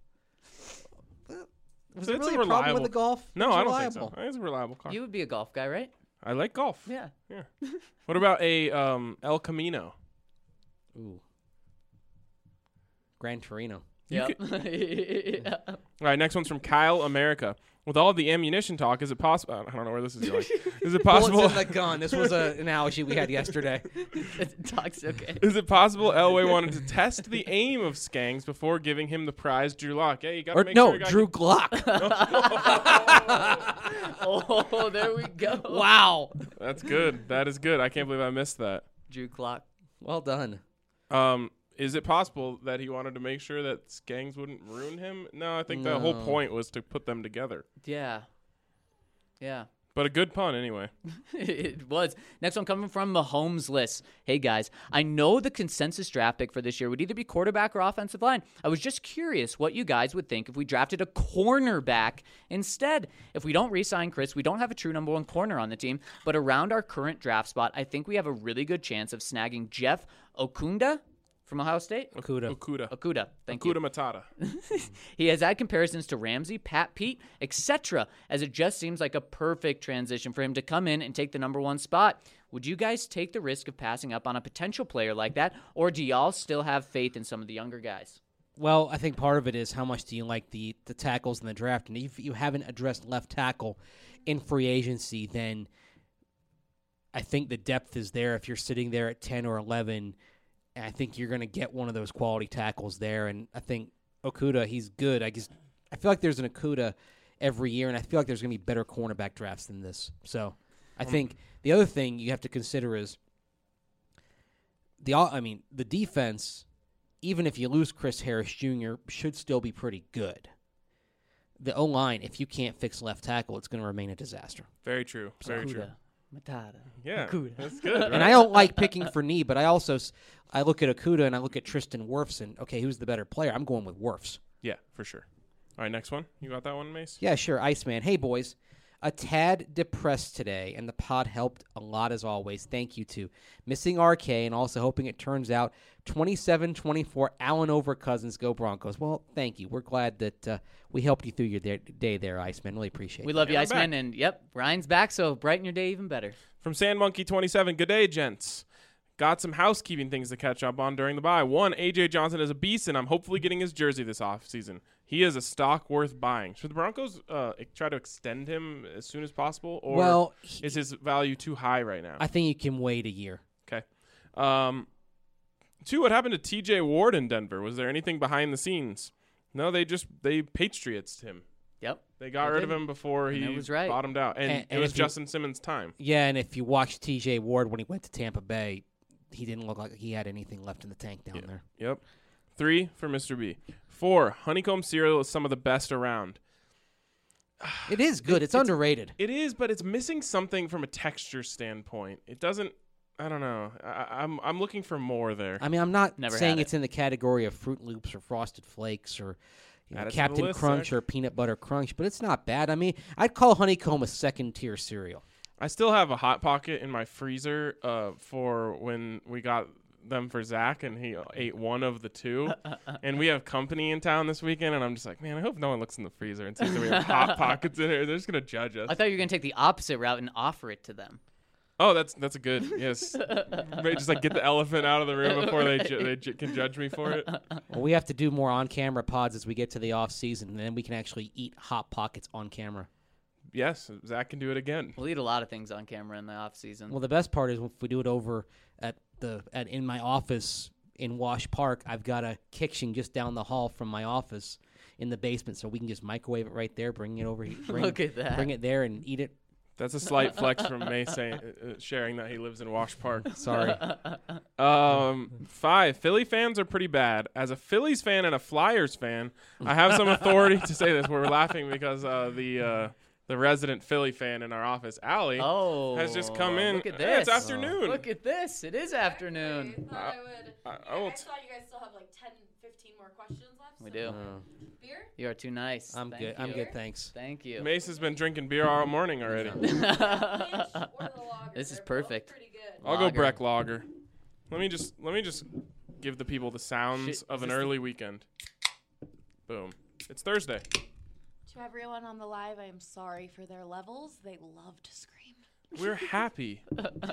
Was It's it really a a problem reliable- with the Golf? No, It's I don't reliable. think so. I think it's a reliable car. You would be a golf guy, right? I like golf. Yeah. Yeah. What about a El Camino? Ooh. Gran Torino. Yeah. All right, next one's from Kyle America. With all of the ammunition talk, is it possible? I don't know where this is going. Is it possible? Bullets in the gun. This was an analogy we had yesterday. Talks okay. Is it possible Elway wanted to test the aim of Skangs before giving him the prize, Drew Lock? Hey, you got to Or make no, sure you Drew Glock. Oh, there we go. Wow. That's good. That is good. I can't believe I missed that. Drew Clock. Well done. Is it possible that he wanted to make sure that Skangs wouldn't ruin him? No, I think the whole No. point was to put them together. Yeah. Yeah. But a good pun anyway. It was. Next one coming from Mahomes list. Hey guys, I know the consensus draft pick for this year would either be quarterback or offensive line. I was just curious what you guys would think if we drafted a cornerback instead. If we don't re-sign Chris, we don't have a true number one corner on the team. But around our current draft spot, I think we have a really good chance of snagging Jeff Okunda from Ohio State. Okuda. Thank you. Okuda Matata. He has had comparisons to Ramsey, Pat Pete, etc., as it just seems like a perfect transition for him to come in and take the number one spot. Would you guys take the risk of passing up on a potential player like that, or do y'all still have faith in some of the younger guys? Well, I think part of it is how much do you like the tackles in the draft. And if you haven't addressed left tackle in free agency, then I think the depth is there. If you're sitting there at 10 or 11, I think you're going to get one of those quality tackles there. And I think Okuda, he's good. I feel like there's an Okuda every year, and I feel like there's going to be better cornerback drafts than this. So I think the other thing you have to consider is the defense, even if you lose Chris Harris Jr., should still be pretty good. The O-line, if you can't fix left tackle, it's going to remain a disaster. Very true. Very true. Matata. Yeah, Okuda. that's good. Right? And I don't like picking for knee, but I look at Okuda and I look at Tristan Wirfs, and, okay, who's the better player? I'm going with Wirfs. Yeah, for sure. All right, next one. You got that one, Mace? Yeah, sure. Iceman. Hey, boys. A tad depressed today, and the pod helped a lot as always. Thank you to missing RK and also hoping it turns out 27-24 Allen over Cousins. Go Broncos. Well, thank you. We're glad that we helped you through your day there, Iceman. Really appreciate it. We love you, I'm Iceman, back. and yep, Ryan's back, so brighten your day even better. From SandMonkey27, good day, gents. Got some housekeeping things to catch up on during the bye. One, A.J. Johnson is a beast, and I'm hopefully getting his jersey this offseason. He is a stock worth buying. Should the Broncos try to extend him as soon as possible, or is his value too high right now? I think you can wait a year. Okay. Two, what happened to T.J. Ward in Denver? Was there anything behind the scenes? No, they Patriots him. Yep. They got rid of him before he that was right. bottomed out. And it was Justin Simmons' time. Yeah, and if you watch T.J. Ward when he went to Tampa Bay, he didn't look like he had anything left in the tank down there. Yep. 3 for Mr. B. 4, honeycomb cereal is some of the best around. It is good. It's underrated. It is, but it's missing something from a texture standpoint. It doesn't. I don't know. I'm looking for more there. I mean, I'm not Never saying had it's in the category of Fruit Loops or Frosted Flakes or Add it to the Captain list, Crunch Zach. or Peanut Butter Crunch, but it's not bad. I mean, I'd call honeycomb a second-tier cereal. I still have a Hot Pocket in my freezer for when we got them for Zach, and he ate one of the two. And we have company in town this weekend, and I'm just like, man, I hope no one looks in the freezer and sees that we have Hot Pockets in here. They're just going to judge us. I thought you were going to take the opposite route and offer it to them. Oh, that's a good, yes. Maybe just like get the elephant out of the room before they can judge me for it. Well, we have to do more on-camera pods as we get to the off-season, and then we can actually eat Hot Pockets on camera. Yes, Zach can do it again. We'll eat a lot of things on camera in the off season. Well, the best part is if we do it over in my office in Wash Park. I've got a kitchen just down the hall from my office in the basement, so we can just microwave it right there, bring it over here, Look at that. bring it there, and eat it. That's a slight flex from May saying, sharing that he lives in Wash Park. Sorry. 5, Philly fans are pretty bad. As a Phillies fan and a Flyers fan, I have some authority to say this. We're laughing because the the resident Philly fan in our office, Allie, has just come in. Look at Hey, this. it's afternoon. Look at this. It is afternoon. I thought I would. I will I thought you guys still have like 10, 15 more questions left. We so- do. Beer? You are too nice. I'm Thank good. I'm you. good, thanks. Thank you. Mace has been drinking beer all morning already. Or the lager. This is They're both perfect. Pretty good. I'll go Lager. Breck Lager. Let me just give the people the sounds Shit, of is an this the- early weekend. Boom. It's Thursday. To everyone on the live, I am sorry for their levels. They love to scream. We're happy.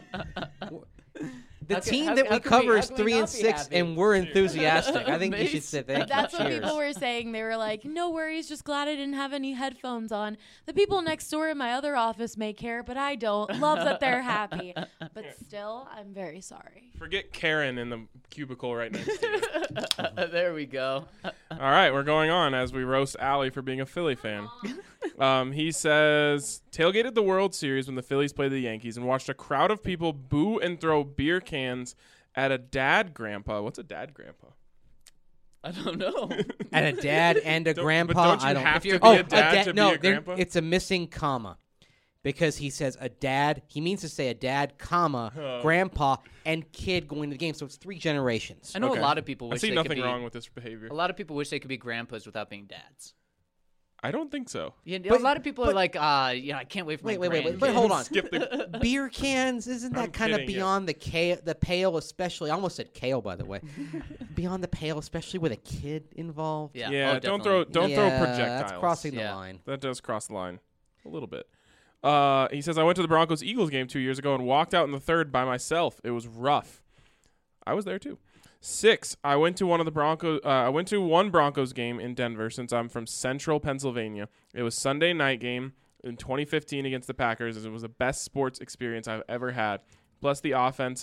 The How can- team how- that how we can cover we- is how can we 3 and not be 6, happy? and we're enthusiastic. I think you should Mace. say thank you. That's what Cheers. people were saying. They were like, no worries, just glad I didn't have any headphones on. The people next door in my other office may care, but I don't. Love that they're happy. But still, I'm very sorry. Forget Karen in the cubicle right next to you. There we go. All right, we're going on as we roast Allie for being a Philly fan. He says, tailgated the World Series when the Phillies played the Yankees and watched a crowd of people boo and throw beer cans at a dad grandpa. What's a dad grandpa? I don't know. And a dad and a Don't- grandpa. but don't you I don't. have If to you're- be Oh, a dad to no, be a grandpa? it's a missing comma, because he says a dad. He means to say a dad, comma, grandpa, and kid going to the game. So it's 3 generations. I know Okay. a lot of people I wish see they nothing could be, wrong with this behavior. A lot of people wish they could be grandpas without being dads. I don't think so. Yeah, But- a lot of people are but- like, I can't wait for my Wait, grandkids. hold on. Skip the. Beer cans, isn't I'm that kind of kidding you. beyond the pale, especially? I almost said kale, by the way. Beyond the pale, especially with a kid involved. Yeah, Yeah, oh, don't definitely. throw Yeah, projectiles. That's crossing the Yeah. line. That does cross the line a little bit. He says, I went to the Broncos-Eagles game 2 years ago and walked out in the third by myself. It was rough. I was there too. 6, I went to one Broncos game in Denver since I'm from central Pennsylvania. It was Sunday night game in 2015 against the Packers. It was the best sports experience I've ever had. Plus the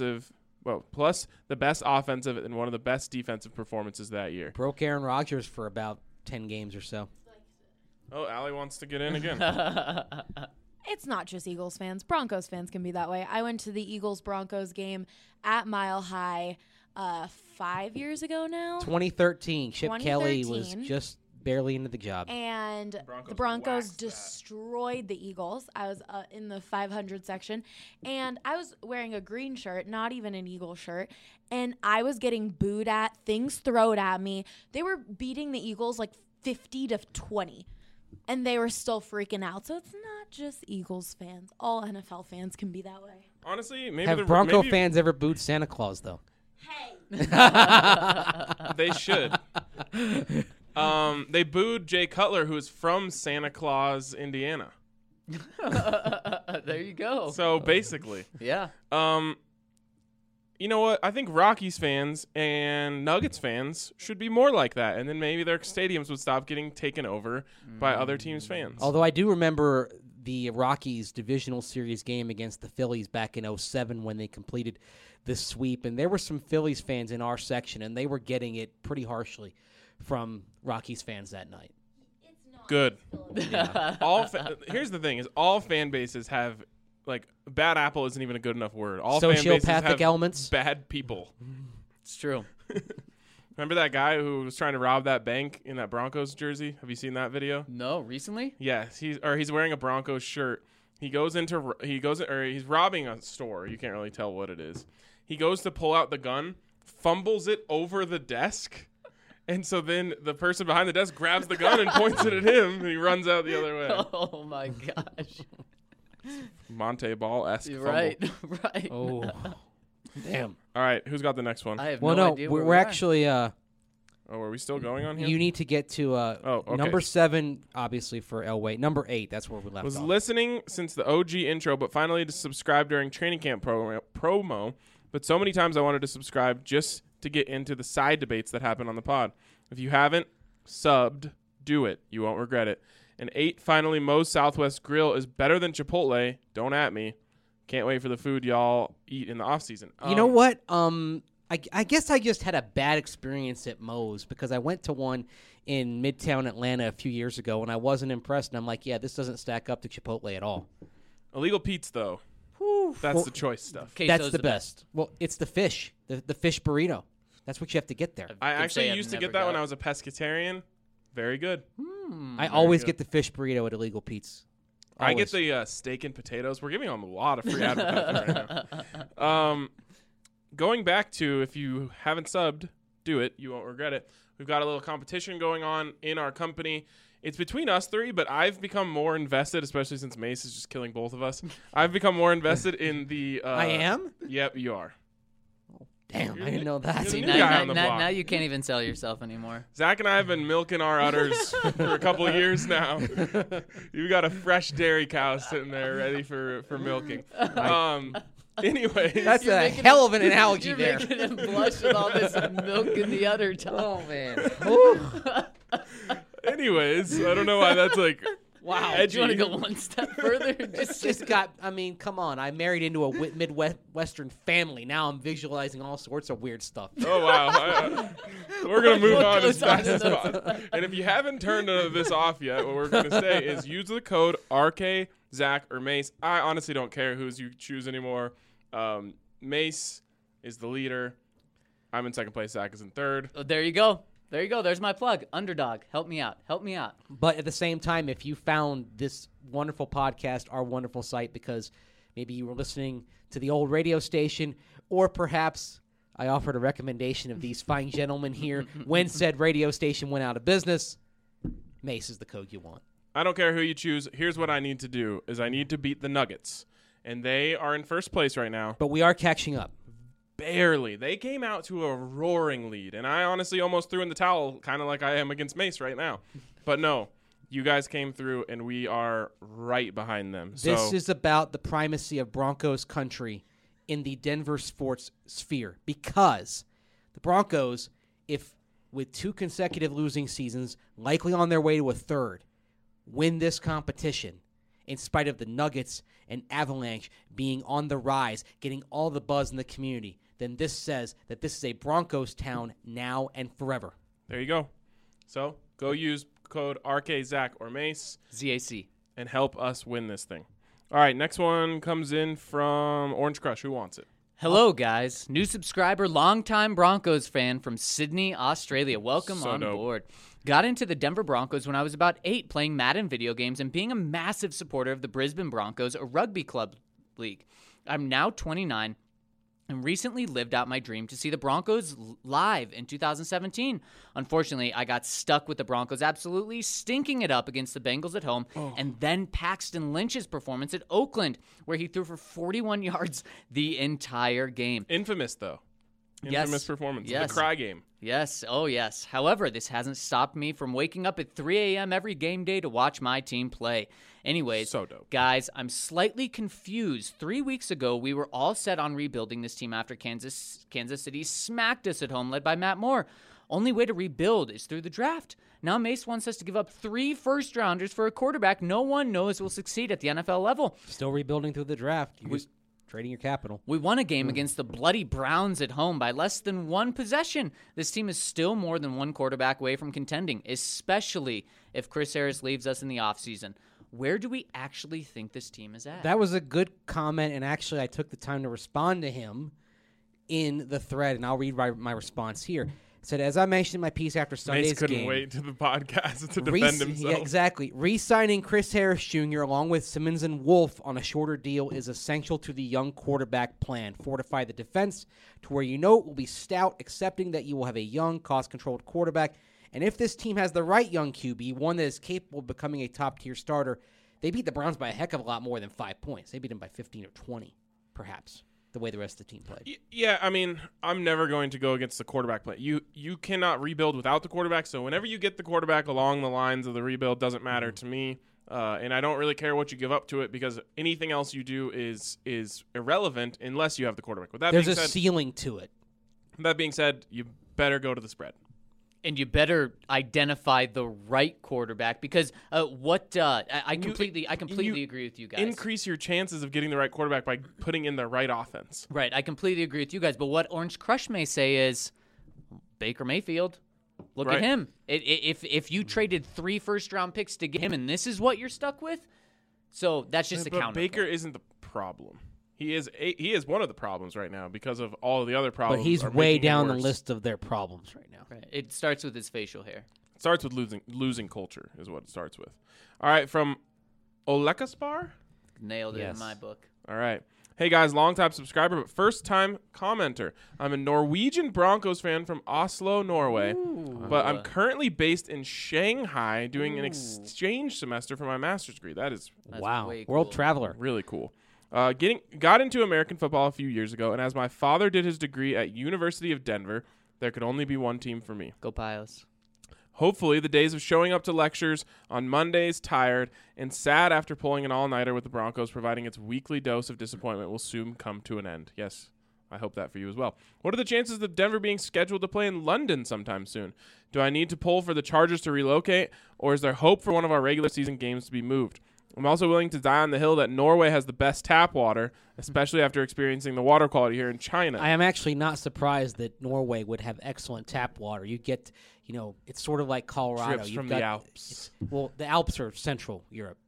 best offensive and one of the best defensive performances that year. Broke Aaron Rodgers for about 10 games or so. Oh, Allie wants to get in again. It's not just Eagles fans. Broncos fans can be that way. I went to the Eagles-Broncos game at Mile High 5 years ago now. 2013, Chip Kelly was 2013. just barely into the job. And Broncos the Broncos waxed that. destroyed the Eagles. I was in the 500 section, and I was wearing a green shirt, not even an Eagle shirt, and I was getting booed at, things thrown at me. They were beating the Eagles like 50-20, and they were still freaking out. So it's not just Eagles fans. All NFL fans can be that way. Honestly, maybe Have Bronco maybe fans ever booed Santa Claus, though? Hey, They should. They booed Jay Cutler, who is from Santa Claus, Indiana. There you go. So basically, Yeah. you know what? I think Rockies fans and Nuggets fans should be more like that, and then maybe their stadiums would stop getting taken over by other teams' fans. Although I do remember the Rockies divisional series game against the Phillies back in 2007 when they completed the sweep, and there were some Phillies fans in our section, and they were getting it pretty harshly from Rockies fans that night. it's not. Good. Here's the thing: is all fan bases have like bad apple isn't even a good enough word. All fan bases Sociopathic have elements? bad people. It's true. Remember that guy who was trying to rob that bank in that Broncos jersey? Have you seen that video? No, recently? Yes, he's wearing a Broncos shirt. He's robbing a store. You can't really tell what it is. He goes to pull out the gun, fumbles it over the desk, and so then the person behind the desk grabs the gun and points it at him, and he runs out the other way. Oh my gosh. Monte Ball-esque You're fumble. right. Right. Oh, damn. All right, who's got the next one? I have Well, no no, idea where we're we are. actually. Oh, are we still going on here? You need to get to okay. number 7, obviously for Elway. Number 8, that's where we left Was off. listening since the OG intro, but finally to subscribe during training camp promo. But so many times I wanted to subscribe just to get into the side debates that happen on the pod. If you haven't subbed, do it. You won't regret it. And 8, finally, Moe's Southwest Grill is better than Chipotle. Don't at me. Can't wait for the food y'all eat in the off season. You know what? I guess I just had a bad experience at Moe's because I went to one in Midtown Atlanta a few years ago and I wasn't impressed. And I'm like, yeah, this doesn't stack up to Chipotle at all. Illegal Pete's though. That's Well, the choice stuff. Queso's That's the best. Well, it's the fish, the fish burrito. That's what you have to get there. I Could actually say I've used to never get that when got I was a pescatarian. Very good. I always good. get the fish burrito at Illegal Pete's. I get Always. the steak and potatoes. We're giving them a lot of free advertising right now. Going back to, if you haven't subbed, do it. You won't regret it. We've got a little competition going on in our company. It's between us three, but I've become more invested, especially since Mace is just killing both of us. I've become more invested in the... I am? Yep, you are. Damn, I didn't know that. You're See, the now, new guy now- on the now- block. now you can't even sell yourself anymore. Zach and I have been milking our udders for a couple of years now. You got a fresh dairy cow sitting there ready for milking. Anyways, That's You're a making hell of an analogy You're there. making him blush with all this milk in the other time. Oh, man. anyways, I don't know why that's like Wow. Do edgy. you want to go one step further? It's just got, I mean, come on. I married into a Midwestern family. Now I'm visualizing all sorts of weird stuff. Oh wow! We're gonna move What on as goes on fast in as those- possible. And if you haven't turned this off yet, what we're gonna say is use the code RK, Zach, or Mace. I honestly don't care who's you choose anymore. Mace is the leader. I'm in second place. Zach is in third. Oh, there you go. There you go. There's my plug. Underdog. Help me out. Help me out. But at the same time, if you found this wonderful podcast, our wonderful site, because maybe you were listening to the old radio station, or perhaps I offered a recommendation of these fine gentlemen here when said radio station went out of business, Mace is the code you want. I don't care who you choose. Here's what I need to do: is I need to beat the Nuggets, and they are in first place right now. But we are catching up. Barely. They came out to a roaring lead, and I honestly almost threw in the towel, kind of like I am against Mace right now. But no, you guys came through, and we are right behind them. This So is about the primacy of Broncos country in the Denver sports sphere, because the Broncos, if with 2 consecutive losing seasons, likely on their way to a third, win this competition, in spite of the Nuggets and Avalanche being on the rise, getting all the buzz in the community, then this says that this is a Broncos town now and forever. there you go. So go use code RK, Zach, or Mace ZAC. and help us win this thing. All right, next one comes in from Orange Crush. Who wants it? Hello, guys. New subscriber, longtime Broncos fan from Sydney, Australia. Welcome So on dope. board. Got into the Denver Broncos when I was about 8, playing Madden video games and being a massive supporter of the Brisbane Broncos, a rugby club league. I'm now 29 and recently lived out my dream to see the Broncos live in 2017. Unfortunately, I got stuck with the Broncos absolutely stinking it up against the Bengals at home, and then Paxton Lynch's performance at Oakland, where he threw for 41 yards the entire game. Infamous, though. Yes. Infamous performance. Yes. The cry game. Yes, oh yes. However, this hasn't stopped me from waking up at 3 a.m. every game day to watch my team play. Anyways, So dope. guys, I'm slightly confused. 3 weeks ago, we were all set on rebuilding this team after Kansas City smacked us at home, led by Matt Moore. Only way to rebuild is through the draft. Now Mace wants us to give up 3 first-rounders for a quarterback no one knows will succeed at the NFL level. Still rebuilding through the draft. You're just trading your capital. We won a game against the bloody Browns at home by less than 1 possession. This team is still more than 1 quarterback away from contending, especially if Chris Harris leaves us in the offseason. Where do we actually think this team is at? That was a good comment, and actually I took the time to respond to him in the thread, and I'll read my response here. It said, as I mentioned in my piece after Sunday's Mace couldn't game, wait to the podcast to defend himself. Yeah, exactly. Re-signing Chris Harris Jr. along with Simmons and Wolf on a shorter deal is essential to the young quarterback plan. Fortify the defense to where you know it will be stout, accepting that you will have a young, cost-controlled quarterback. And if this team has the right young QB, one that is capable of becoming a top-tier starter, they beat the Browns by a heck of a lot more than 5 points. They beat them by 15 or 20, perhaps, the way the rest of the team played. Yeah, I mean, I'm never going to go against the quarterback play. You cannot rebuild without the quarterback, so whenever you get the quarterback along the lines of the rebuild, doesn't matter to me. And I don't really care what you give up to it, because anything else you do is irrelevant unless you have the quarterback. With that There's being a said, ceiling to it. that being said, you better go to the spread. And you better identify the right quarterback, because I completely agree with you guys. Increase your chances of getting the right quarterback by putting in the right offense. Right, I completely agree with you guys. But what Orange Crush may say is Baker Mayfield. Look Right. at him. If you traded 3 first-round picks to get him, and this is what you're stuck with, so that's just a But counter. Baker isn't the problem. He is one of the problems right now because of all of the other problems. But he's are way making him down the worse. list of their problems right now. Right. It starts with his facial hair. It starts with losing culture is what it starts with. All right, from Olekaspar? Nailed it Yes. in my book. All right. Hey, guys, long-time subscriber, but first-time commenter. I'm a Norwegian Broncos fan from Oslo, Norway, but I'm currently based in Shanghai doing an exchange semester for my master's degree. That is That's Wow. way World cool. traveler. really cool. Got into American football a few years ago, and as my father did his degree at University of Denver, there could only be one team for me. Go Pios. Hopefully, the days of showing up to lectures on Mondays tired and sad after pulling an all-nighter with the Broncos providing its weekly dose of disappointment will soon come to an end. Yes, I hope that for you as well. What are the chances of Denver being scheduled to play in London sometime soon? Do I need to pull for the Chargers to relocate, or is there hope for one of our regular season games to be moved? I'm also willing to die on the hill that Norway has the best tap water, especially after experiencing the water quality here in China. I am actually not surprised that Norway would have excellent tap water. You get, it's sort of like Colorado. Drips You've from got- the Alps. Well, the Alps are Central Europe.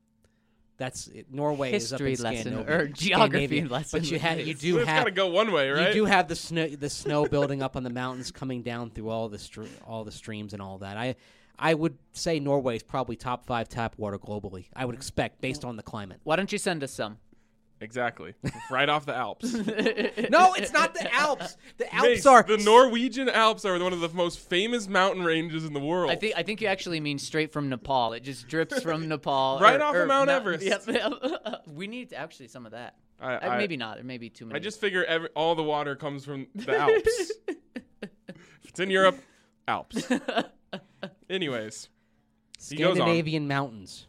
Norway History is up in lesson Scandinavia. or geography Scandinavia. lesson. But you It's do It's got to have go one way, right? you do have the snow building up on the mountains, coming down through all the streams and all that. I would say Norway is probably top 5 tap water globally. I would expect based on the climate. Why don't you send us some? Exactly. Right off the Alps. No, it's not the Alps. The Alps Mace, are the Norwegian Alps are one of the most famous mountain ranges in the world. I think you actually mean straight from Nepal. It just drips from Nepal. Right off of Mount Everest. Yep. We need actually some of that. Maybe not. There may be too many. I just figure all the water comes from the Alps. If it's in Europe, Alps. Anyways, he goes on. Scandinavian mountains.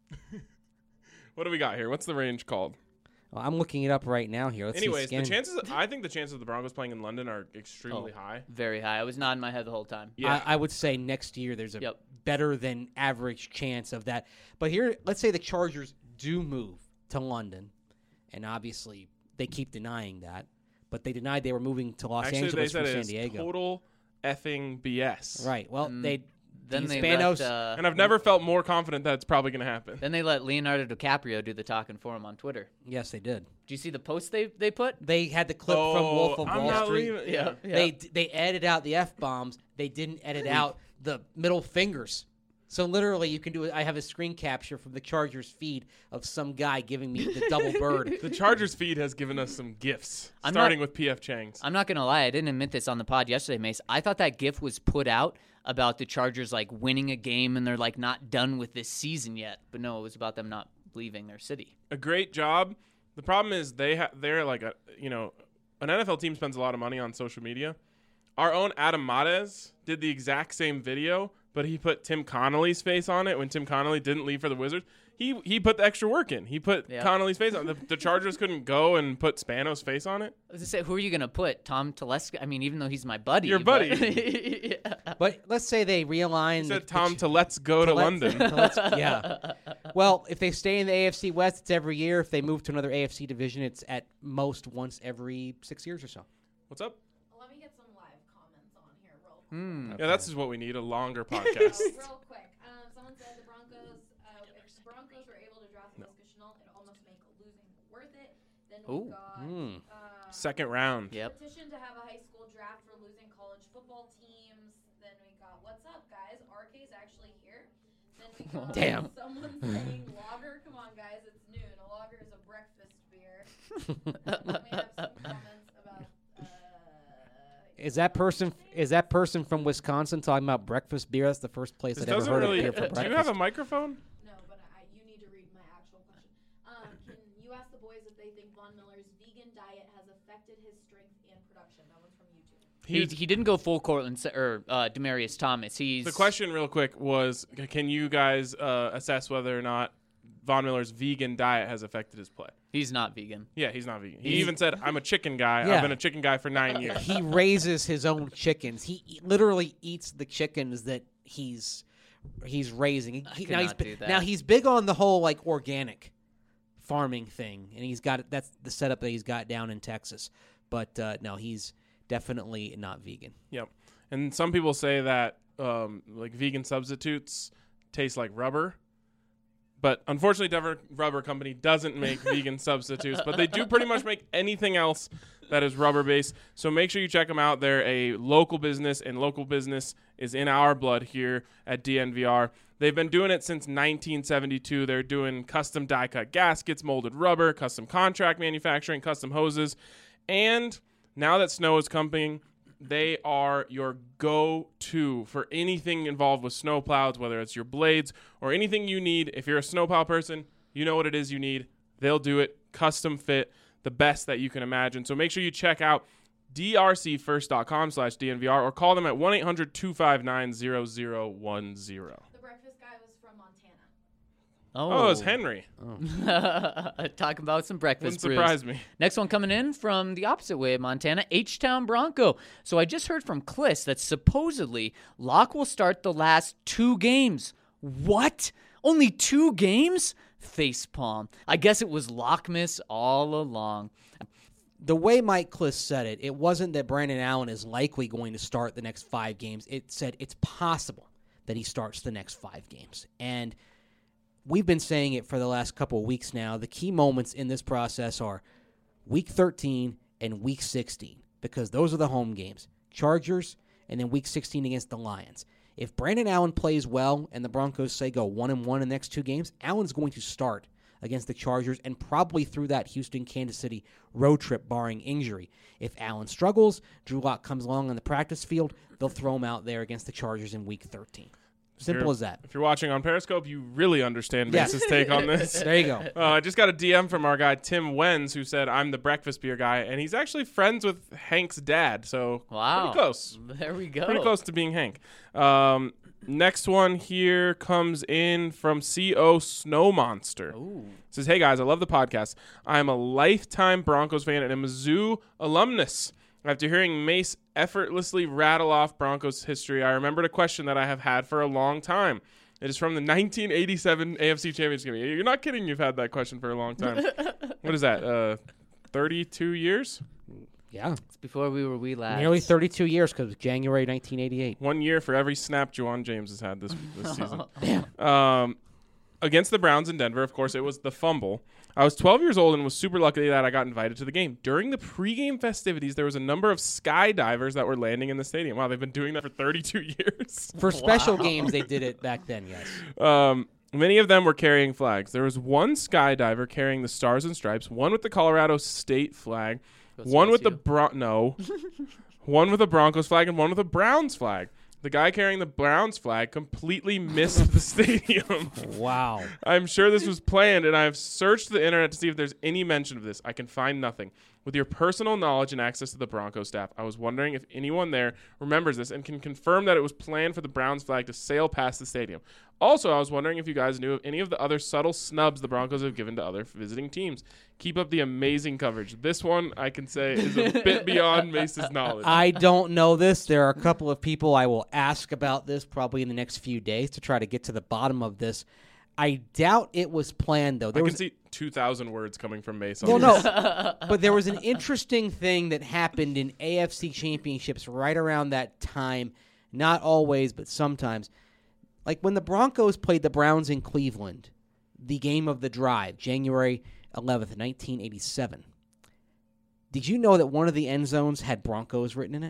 What do we got here? What's the range called? Well, I'm looking it up right now here. Let's Anyways, see, I think the chances of the Broncos playing in London are extremely high. very high. I was nodding my head the whole time. Yeah. I would say next year there's a Yep. better than average chance of that. But here, let's say the Chargers do move to London, and obviously they keep denying that. But they denied they were moving to Los Actually, they Angeles said from San it's Diego. total effing BS. Right. Well, Then the they Spanos. let, And I've never felt more confident that it's probably going to happen. then they let Leonardo DiCaprio do the talking for him on Twitter. Yes, they did. Do you see the post they put? They had the clip from Wolf of I'm Wall not Street. leaving- Yeah. They edited out the F-bombs. They didn't edit out the middle fingers. So literally, you can do it. I have a screen capture from the Chargers feed of some guy giving me the double bird. The Chargers feed has given us some gifts, I'm starting not- with P.F. Chang's. I'm not gonna lie, I didn't admit this on the pod yesterday, Mace. I thought that GIF was put out about the Chargers like winning a game and they're like not done with this season yet. But no, it was about them not leaving their city. A great job. The problem is they're like an NFL team spends a lot of money on social media. Our own Adam Mares did the exact same video, but he put Tim Connolly's face on it when Tim Connolly didn't leave for the Wizards. He put the extra work in. He put Yeah. Connolly's face on it. The Chargers couldn't go and put Spanos' face on it. I was gonna say, who are you gonna put? Tom Telesco? I mean, even though he's my buddy. Your but- buddy. Yeah. But let's say they realign. He said Tom to let's go to London. Yeah. Well, if they stay in the AFC West, it's every year. If they move to another AFC division, it's at most once every 6 years or so. What's up? Let me get some live comments on here real quick. Yeah, that's just what we need, a longer podcast. Real quick. Someone said the Broncos, if the Broncos were able to draft Laviska Shenault, it'd almost make losing worth it. Then we Ooh. got Second round. Yep. petition to have a high school draft for losing college football teams. Then we got what's up, guys? RK's actually here. Then we got Damn. someone saying lager. Come on, guys, it's noon. A lager is a breakfast beer. Then we have some comments about. Is that person from Wisconsin talking about breakfast beer? That's the first place This I'd ever doesn't heard really. of beer for Do breakfast. you have a microphone? No, but you need to read my actual question. Can you ask the boys if they think Von Miller's vegan diet has affected his strength and production? That one's from YouTube. He didn't go full Cortland or Demarius Thomas. He's The question, real quick, was: can you guys assess whether or not Von Miller's vegan diet has affected his play? He's not vegan. Yeah, he's not vegan. He even said, "I'm a chicken guy. Yeah. I've been a chicken guy for 9 years." He raises his own chickens. He literally eats the chickens that he's raising. Now he's big on the whole like organic farming thing, and that's the setup that he's got down in Texas. But no, he's definitely not vegan. Yep. And some people say that like vegan substitutes taste like rubber. But unfortunately, Denver Rubber Company doesn't make vegan substitutes, but they do pretty much make anything else that is rubber-based. So make sure you check them out. They're a local business, and local business is in our blood here at DNVR. They've been doing it since 1972. They're doing custom die-cut gaskets, molded rubber, custom contract manufacturing, custom hoses. And now that snow is coming, they are your go-to for anything involved with snowplows, whether it's your blades or anything you need. If you're a snowplow person, you know what it is you need. They'll do it, custom fit, the best that you can imagine. So make sure you check out drcfirst.com/DNVR or call them at 1-800-259-0010. The breakfast guy was from Montana. Oh, it's Henry. Talking about some breakfast Wouldn't brews. surprise me. Next one coming in from the opposite way of Montana, H-Town Bronco. So I just heard from Kliss that supposedly Locke will start the last 2 games. What? Only 2 games? Facepalm. I guess it was Lockmas all along. The way Mike Kliss said it, it wasn't that Brandon Allen is likely going to start the next 5 games. It said it's possible that he starts the next 5 games. And we've been saying it for the last couple of weeks now. The key moments in this process are Week 13 and Week 16 because those are the home games. Chargers and then Week 16 against the Lions. If Brandon Allen plays well and the Broncos, say, go 1-1 in the next 2 games, Allen's going to start against the Chargers and probably through that Houston-Kansas City road trip, barring injury. If Allen struggles, Drew Lock comes along on the practice field, they'll throw him out there against the Chargers in Week 13. Simple as that. If you're watching on Periscope, you really understand Mace's take on this. There you go. I just got a DM from our guy, Tim Wenz, who said, I'm the breakfast beer guy, and he's actually friends with Hank's dad, so Wow. pretty close. There we go. Pretty close to being Hank. Next one here comes in from CO Snow Monster. Ooh. Says, hey guys, I love the podcast. I'm a lifetime Broncos fan and a Mizzou alumnus. After hearing Mace effortlessly rattle off Broncos history, I remembered a question that I have had for a long time. It is from the 1987 AFC Championship game. You're not kidding, you've had that question for a long time. What is that, 32 years? Yeah. It's before we were wee lads. Nearly 32 years because January 1988. 1 year for every snap Juwan James has had this season. Against the Browns in Denver, of course, it was the fumble. I was 12 years old and was super lucky that I got invited to the game. During the pregame festivities, there was a number of skydivers that were landing in the stadium. Wow, they've been doing that for 32 years. For special games, they did it back then, yes. Many of them were carrying flags. There was one skydiver carrying the Stars and Stripes, one with the Colorado State flag, one with the one with a Broncos flag, and one with a Browns flag. The guy carrying the Browns flag completely missed the stadium. Wow. I'm sure this was planned, and I have searched the internet to see if there's any mention of this. I can find nothing. With your personal knowledge and access to the Broncos staff, I was wondering if anyone there remembers this and can confirm that it was planned for the Browns flag to sail past the stadium. Also, I was wondering if you guys knew of any of the other subtle snubs the Broncos have given to other visiting teams. Keep up the amazing coverage. This one, I can say, is a bit beyond Mace's knowledge. I don't know this. There are a couple of people I will ask about this probably in the next few days to try to get to the bottom of this. I doubt it was planned, though. I can see 2,000 words coming from Mace on Well, this. no, but there was an interesting thing that happened in AFC championships right around that time. Not always, but sometimes. Like when the Broncos played the Browns in Cleveland, the game of the drive, January 11th, 1987. Did you know that one of the end zones had Broncos written in it?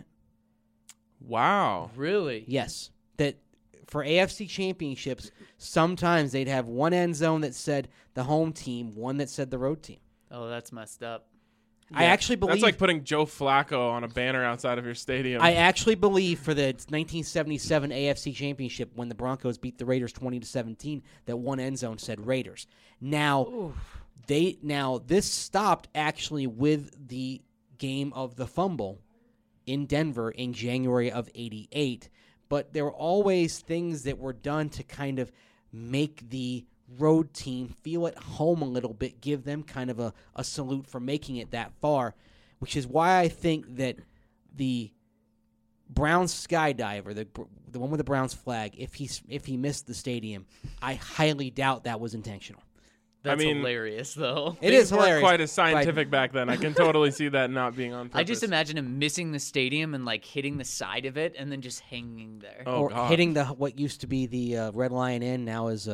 Wow. Really? Yes. That for AFC championships, sometimes they'd have one end zone that said the home team, one that said the road team. Oh, that's messed up. I actually believe That's like putting Joe Flacco on a banner outside of your stadium. I actually believe for the 1977 AFC Championship when the Broncos beat the Raiders 20-17, that one end zone said Raiders. Now this stopped actually with the game of the fumble in Denver in January of '88, but there were always things that were done to kind of make the road team feel at home a little bit, give them kind of a salute for making it that far, which is why I think that the Browns skydiver, the one with the Browns flag, if he missed the stadium, I highly doubt that was intentional. That's mean, hilarious, though. It is Things weren't hilarious. quite as scientific back then. I can totally see that not being on purpose. I just imagine him missing the stadium and like hitting the side of it and then just hanging there. Oh, or God. hitting what used to be the Red Lion Inn, now is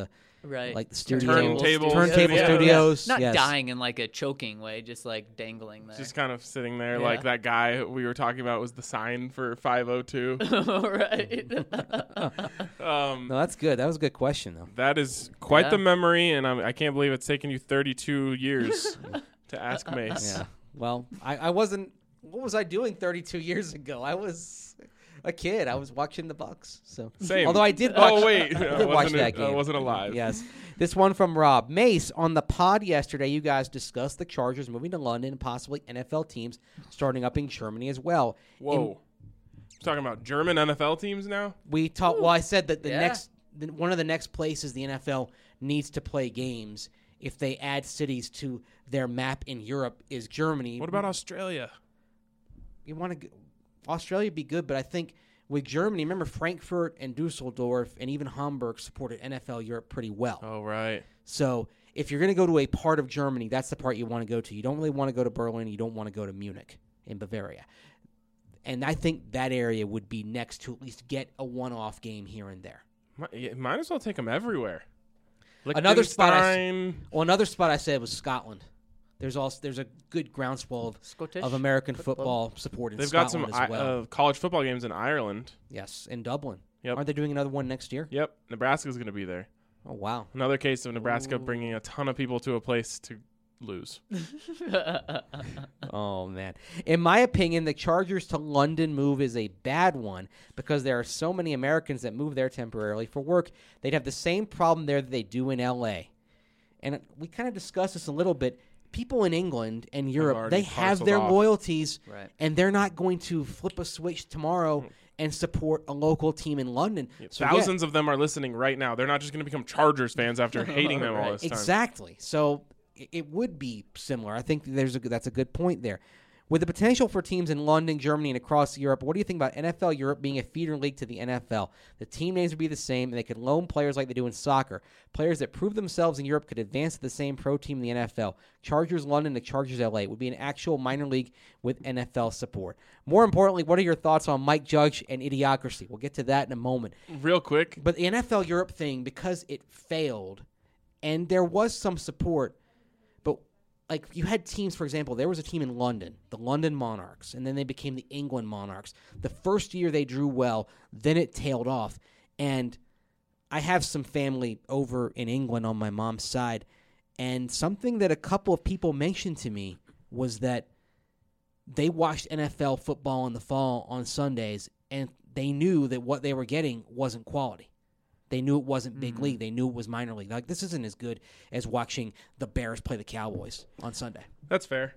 Right. like the studio, Turntables. turntable Yeah. studios. Not yes. dying in like a choking way, just like dangling there. Just kind of sitting there Yeah. like that guy we were talking about was the sign for 502. Right. Um, No, that's good. That was a good question, though. That is quite Yeah. the memory, and I can't believe it's taken you 32 years to ask Mace. Yeah. Well, I wasn't. What was I doing 32 years ago? I was a kid. I was watching the Bucks. So Same. Although I did watch. Oh wait, I I did watch wasn't, that game. I wasn't alive. Yes. This one from Rob Mace on the pod yesterday. You guys discussed the Chargers moving to London and possibly NFL teams starting up in Germany as well. Whoa. Talking about German NFL teams now? We talked. Well, I said that Yeah. one of the next places the NFL needs to play games if they add cities to their map in Europe is Germany. What about Australia? You want to Australia would be good, but I think with Germany, remember Frankfurt and Dusseldorf and even Hamburg supported NFL Europe pretty well. Oh, right. So if you're going to go to a part of Germany, that's the part you want to go to. You don't really want to go to Berlin. You don't want to go to Munich in Bavaria. And I think that area would be next to at least get a one-off game here and there. Might as well take them everywhere. Another spot Liechtenstein. Another spot I said was Scotland. There's a good groundswell Scottish of American football support in They've got some Scotland as well. college football games in Ireland. Yes, in Dublin. Yep. Aren't they doing another one next year? Yep. Nebraska's going to be there. Oh, wow. Another case of Nebraska bringing a ton of people to a place to lose. Oh, man. In my opinion, the Chargers to London move is a bad one because there are so many Americans that move there temporarily for work. They'd have the same problem there that they do in L.A. And we kind of discussed this a little bit. People in England and Europe, already they have parceled their off. loyalties, Right. and they're not going to flip a switch tomorrow and support a local team in London. So, yeah, Thousands of them are listening right now. They're not just going to become Chargers fans after hating them all Right. this time. exactly. So it would be similar. I think that's a good point there. With the potential for teams in London, Germany, and across Europe, what do you think about NFL Europe being a feeder league to the NFL? The team names would be the same, and they could loan players like they do in soccer. Players that prove themselves in Europe could advance to the same pro team in the NFL. Chargers London to Chargers LA would be an actual minor league with NFL support. More importantly, what are your thoughts on Mike Judge and Idiocracy? We'll get to that in a moment. Real quick, But the NFL Europe thing, because it failed, and there was some support, but like you had teams, for example, there was a team in London, the London Monarchs, and then they became the England Monarchs. The first year they drew well, then it tailed off. And I have some family over in England on my mom's side, and something that a couple of people mentioned to me was that they watched NFL football in the fall on Sundays, and they knew that what they were getting wasn't quality. They knew it wasn't big league. They knew it was minor league. Like, this isn't as good as watching the Bears play the Cowboys on Sunday. that's fair.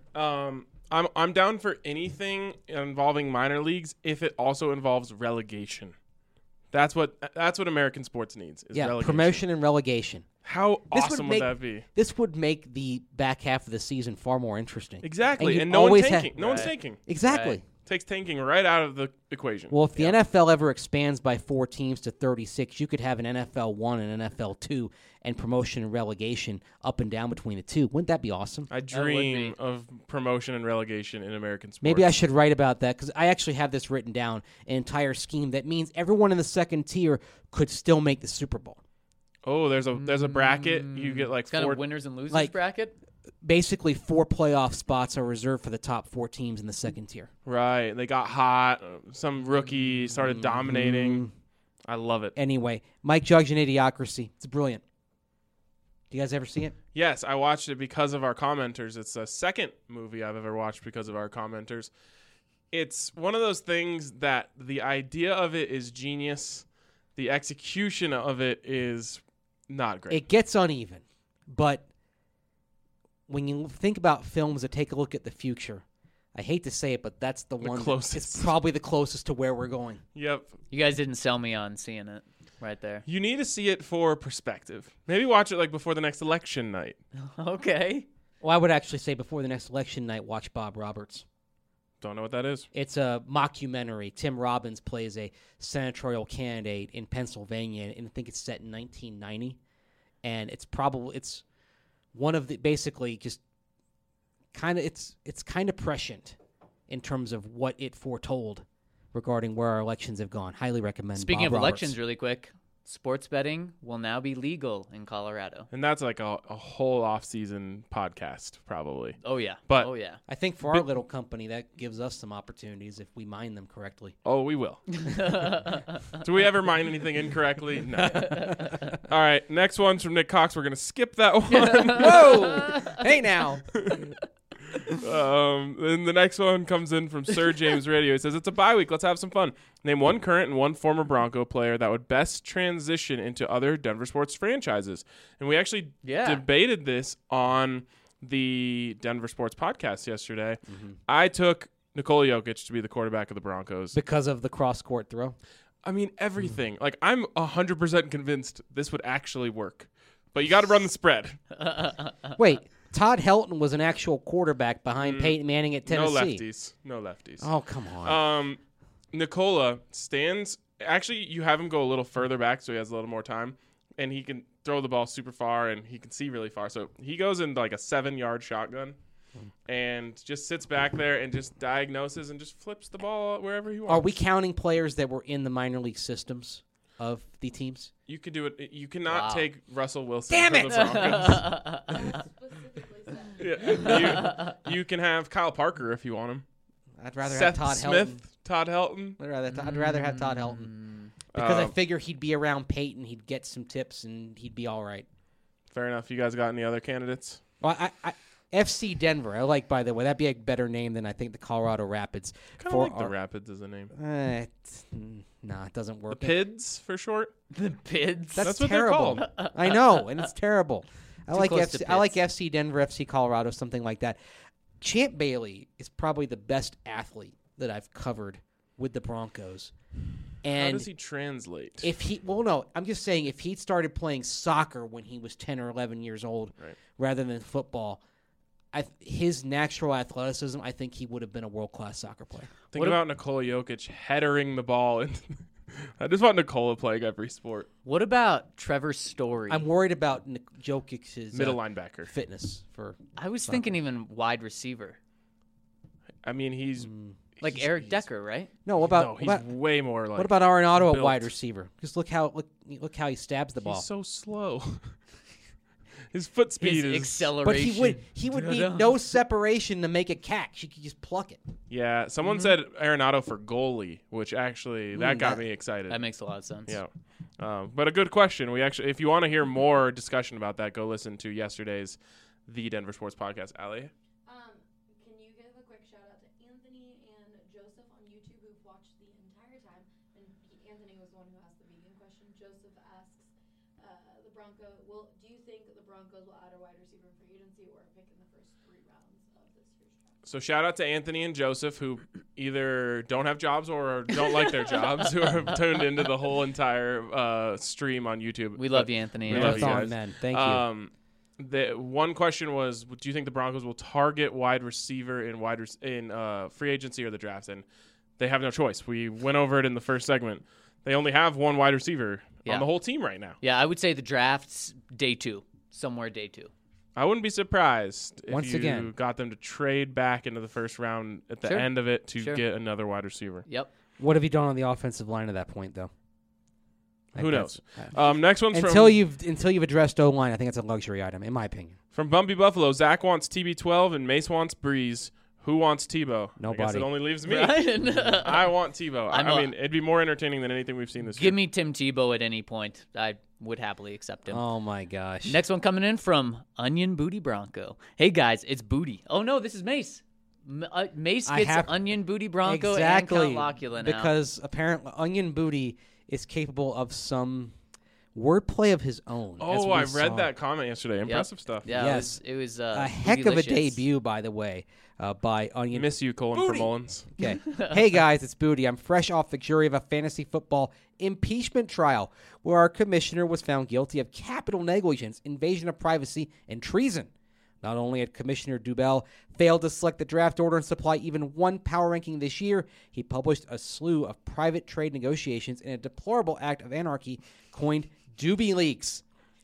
I'm down for anything involving minor leagues if it also involves relegation. That's what American sports needs. Is Yeah, relegation. promotion and relegation. How This would awesome make- would that be? This would make the back half of the season far more interesting. Exactly, you and no one's always tanking. have- No one's Right. tanking. Exactly. Right. Takes tanking right out of the equation. Well, if the NFL ever expands by 4 teams to 36, you could have an NFL 1 and an NFL 2 and promotion and relegation up and down between the two. Wouldn't that be awesome? I would dream be. of promotion and relegation in American sports. Maybe I should write about that because I actually have this written down, an entire scheme that means everyone in the second tier could still make the Super Bowl. Oh, there's a bracket. You get like It's kind four. of winners and losers like- bracket. Basically, 4 playoff spots are reserved for the top 4 teams in the second tier. Right. They got hot. Some rookie started dominating. I love it. Anyway, Mike Judge and Idiocracy. It's brilliant. Do you guys ever see it? Yes, I watched it because of our commenters. It's the second movie I've ever watched because of our commenters. It's one of those things that the idea of it is genius. The execution of it is not great. It gets uneven, but when you think about films that take a look at the future, I hate to say it, but that's the one. closest. It's probably the closest to where we're going. Yep. You guys didn't sell me on seeing it right there. You need to see it for perspective. Maybe watch it like before the next election night. Okay. Well, I would actually say before the next election night, watch Bob Roberts. Don't know what that is. It's a mockumentary. Tim Robbins plays a senatorial candidate in Pennsylvania, and I think it's set in 1990. And it's one of the basically just kind of it's kind of prescient in terms of what it foretold regarding where our elections have gone. Highly recommend. Speaking Bob of Roberts. elections, really quick, Sports betting will now be legal in Colorado. And that's like a whole off-season podcast, probably. Oh, yeah. But- oh, yeah. I think for our little company, that gives us some opportunities if we mine them correctly. Oh, we will. Do we ever mind anything incorrectly? No. All right, next one's from Nick Cox. We're going to skip that one. Whoa! Hey now. Then the next one comes in from Sir James Radio. He says, it's a bye week. Let's have some fun. Name one current and one former Bronco player that would best transition into other Denver sports franchises. And we actually debated this on the Denver Sports Podcast yesterday. Mm-hmm. I took Nikola Jokic to be the quarterback of the Broncos. Because of the cross-court throw? I mean, everything. Like, I'm 100% convinced this would actually work. But you got to run the spread. Wait. Todd Helton was an actual quarterback behind Peyton Manning at Tennessee. No lefties. Oh, come on. Nicola stands. Actually, you have him go a little further back so he has a little more time. And he can throw the ball super far and he can see really far. So he goes in like a 7-yard shotgun and just sits back there and just diagnoses and just flips the ball wherever he wants. Are we counting players that were in the minor league systems of the teams? You could do it. You cannot take Russell Wilson. Damn for it! The Broncos. Yeah, you can have Kyle Parker if you want him. I'd rather Seth have Todd Smith, Helton. Todd Helton. I'd rather have Todd Helton because I figure he'd be around Peyton. He'd get some tips and he'd be all right. Fair enough. You guys got any other candidates? Well, I FC Denver. I like, by the way, that'd be a better name than I think the Colorado Rapids. Kind of like the Rapids as a name. Nah, it doesn't work. The Pids for short. The Pids. That's what terrible. they're called. I know, and it's terrible. I like close to FC. I like Pids. FC Denver, FC Colorado, something like that. Champ Bailey is probably the best athlete that I've covered with the Broncos. And how does he translate? I'm just saying if he started playing soccer when he was 10 or 11 years old rather than football, his natural athleticism, I think he would have been a world-class soccer player. Think about Nikola Jokic headering the ball. I just want Nikola playing every sport. What about Trevor Story? I'm worried about Jokic's Middle linebacker. fitness for. I was soccer. thinking even wide receiver. I mean, he's Like Eric Decker, right? No, he's way more like. what about Arenado at built. wide receiver? Just look how he stabs the ball. He's so slow. His foot speed His is acceleration. But he would need no separation to make a catch. He could just pluck it. Yeah, someone said Arenado for goalie, which actually that got me excited. That makes a lot of sense. Yeah, but a good question. We actually, if you want to hear more discussion about that, go listen to yesterday's The Denver Sports Podcast. Allie? Can you give a quick shout out to Anthony and Joseph on YouTube who've watched the entire time? And Anthony was the one who asked the vegan question. Joseph asks, do you think the Broncos will add a wide receiver in free agency or pick in the first 3 rounds of this year's draft? So shout out to Anthony and Joseph, who either don't have jobs or don't like their jobs, who have tuned into the whole entire stream on YouTube. We love you, Anthony. We love you Marathon guys. men. Thank you. The one question was, do you think the Broncos will target wide receiver in free agency or the draft? And they have no choice. We went over it in the first segment. They only have one wide receiver on the whole team right now. Yeah, I would say the draft's day 2, somewhere day 2. I wouldn't be surprised if Once you again. got them to trade back into the first round at the end of it to get another wide receiver. Yep. What have you done on the offensive line at that point, though? Who knows? Next one's until you've addressed O-line, I think it's a luxury item, in my opinion. from Bumpy Buffalo. Zach wants TB12 and Mace wants Breeze. Who wants Tebow? Nobody. I guess it only leaves me. Ryan. I want Tebow. I mean, it'd be more entertaining than anything we've seen this year. Give me Tim Tebow at any point. I would happily accept him. Oh, my gosh. Next one coming in from Onion Booty Bronco. Hey, guys, it's Booty. Oh, no, this is Mace. Mace gets Onion Booty Bronco and Count Locula now. Because apparently Onion Booty is capable of some wordplay of his own. Oh, I read that comment yesterday. Impressive stuff. Yeah, Yes. it was a heck of a bootylicious. debut, by the way, by Onion. Miss you, Colin for Mullins. Okay. Hey, guys, it's Booty. I'm fresh off the jury of a fantasy football impeachment trial where our commissioner was found guilty of capital negligence, invasion of privacy, and treason. Not only had Commissioner Dubell failed to select the draft order and supply even one power ranking this year, he published a slew of private trade negotiations in a deplorable act of anarchy coined Doobie Leaks.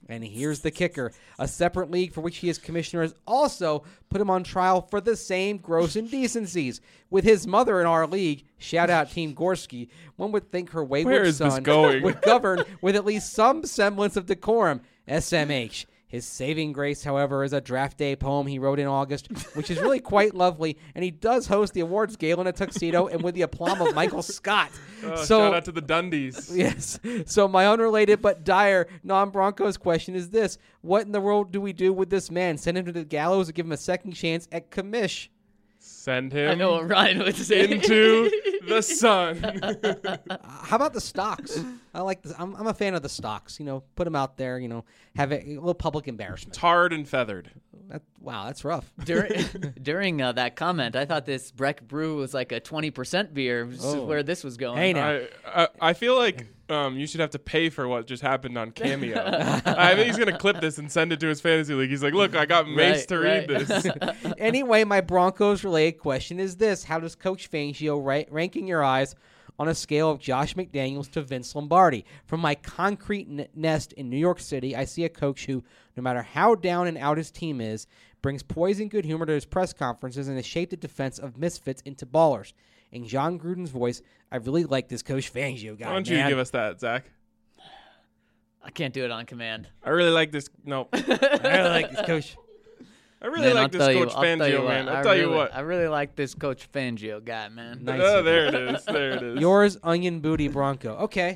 And here's the kicker. A separate league for which he is commissioner has also put him on trial for the same gross indecencies. With his mother in our league, shout out Team Gorski, one would think her Where wayward is this son going? would govern with at least some semblance of decorum. SMH. His saving grace, however, is a draft day poem he wrote in August, which is really quite lovely, and he does host the awards gala in a tuxedo and with the aplomb of Michael Scott. Shout out to the Dundies. Yes. So my unrelated but dire non-Broncos question is this. What in the world do we do with this man? Send him to the gallows or give him a second chance at commish? Send him I know what Ryan would say. into the sun. How about the stocks? I like this. I'm a fan of the stocks. Put them out there, have a little public embarrassment. Tarred and feathered. Wow, that's rough. During that comment, I thought this Breck Brew was like a 20% beer, which is where this was going. Hey, now. I feel like you should have to pay for what just happened on Cameo. I think he's going to clip this and send it to his fantasy league. He's like, look, I got Mace to read this. Anyway, my Broncos-related question is this. How does Coach Fangio rank in your eyes on a scale of Josh McDaniels to Vince Lombardi? From my concrete nest in New York City, I see a coach who, no matter how down and out his team is, brings poise and good humor to his press conferences and has shaped the defense of misfits into ballers. In John Gruden's voice, I really like this Coach Fangio guy. Why don't you give us that, Zach? I can't do it on command. I really like this. No. I really like this coach. I really like this Coach Fangio, man. I'll tell you what. I really like this Coach Fangio guy, man. Nice. Oh, there it is. There it is. Yours, Onion Booty Bronco. Okay.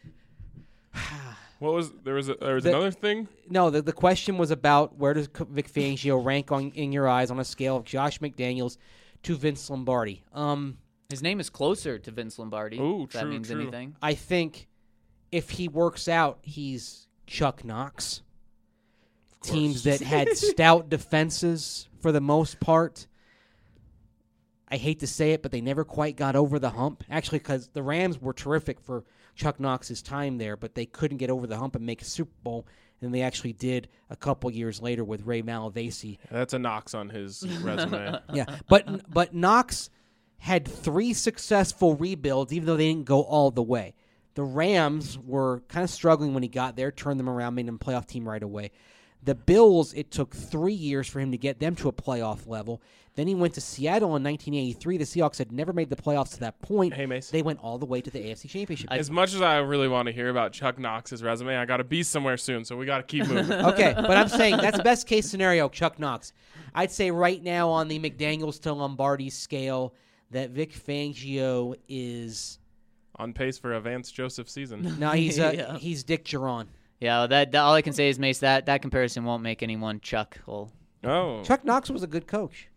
What was there was another thing? No, the question was about where does Vic Fangio rank in your eyes on a scale of Josh McDaniels to Vince Lombardi? His name is closer to Vince Lombardi. Ooh, if that true, means true. anything. I think if he works out, he's Chuck Knox. Teams that had stout defenses for the most part. I hate to say it, but they never quite got over the hump. Actually, because the Rams were terrific for Chuck Knox's time there, but they couldn't get over the hump and make a Super Bowl, and they actually did a couple years later with Ray Malavasi. That's a Knox on his resume. Yeah, but Knox had 3 successful rebuilds, even though they didn't go all the way. The Rams were kind of struggling when he got there, turned them around, made them a playoff team right away. The Bills, it took 3 years for him to get them to a playoff level. Then he went to Seattle in 1983. The Seahawks had never made the playoffs to that point. Hey, Mace. They went all the way to the AFC Championship. As much as I really want to hear about Chuck Knox's resume, I got to be somewhere soon, so we got to keep moving. Okay, but I'm saying that's best case scenario, Chuck Knox. I'd say right now on the McDaniels to Lombardi scale that Vic Fangio is On pace for a Vance Joseph season. no, he's Yeah. he's Dick Geron. Yeah, that all I can say is, Mace, that comparison won't make anyone chuck. Well, Oh. Chuck Knox was a good coach.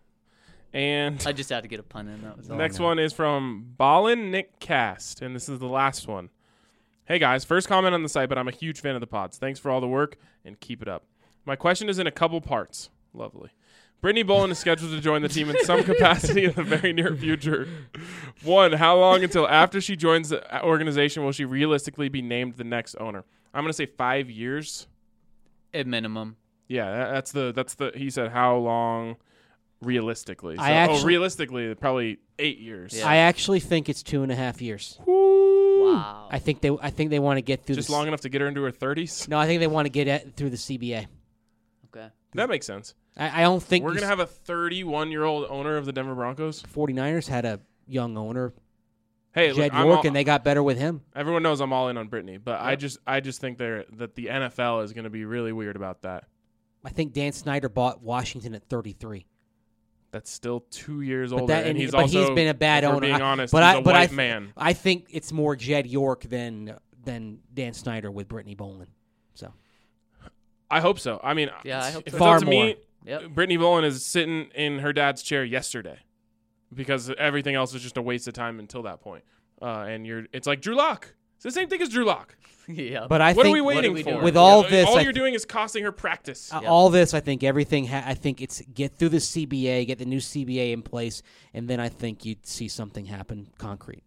And I just had to get a pun in. That was all. next one is from Ballin Nick Cast, and this is the last one. Hey guys, first comment on the site, but I'm a huge fan of the pods. Thanks for all the work and keep it up. My question is in a couple parts. Lovely. Brittany Bolin is scheduled to join the team in some capacity in the very near future. 1, how long until after she joins the organization will she realistically be named the next owner? I'm going to say 5 years. At minimum. Yeah, that's the he said how long realistically. So, realistically probably 8 years. Yeah. I actually think it's 2.5 years. Wow. I think they want to get through Just long enough to get her into her 30s. No, I think they want to get through the CBA. Okay. That makes sense. I don't think We're going to have a 31-year-old owner of the Denver Broncos. 49ers had a young owner, Hey, Jed look, York, and they got better with him. everyone knows I'm all in on Brittany, but I just think that the NFL is going to be really weird about that. I think Dan Snyder bought Washington at 33. That's still 2 years But older, that- and he's but also he's been a bad if we're owner. being honest, but he's I- a but I white th- man. I think it's more Jed York than Dan Snyder with Brittany Bolin. So I hope so. I mean, Yeah, I hope if so. it's Far up to more. me, Yep. Brittany Bolin is sitting in her dad's chair yesterday because everything else is just a waste of time until that point. It's like Drew Lock. It's the same thing as Drew Lock. Yeah. But I What think are we waiting we for? doing? With all this, all I you're doing is costing her practice. all this, I think everything. I think it's get through the CBA, get the new CBA in place, and then I think you'd see something happen concrete.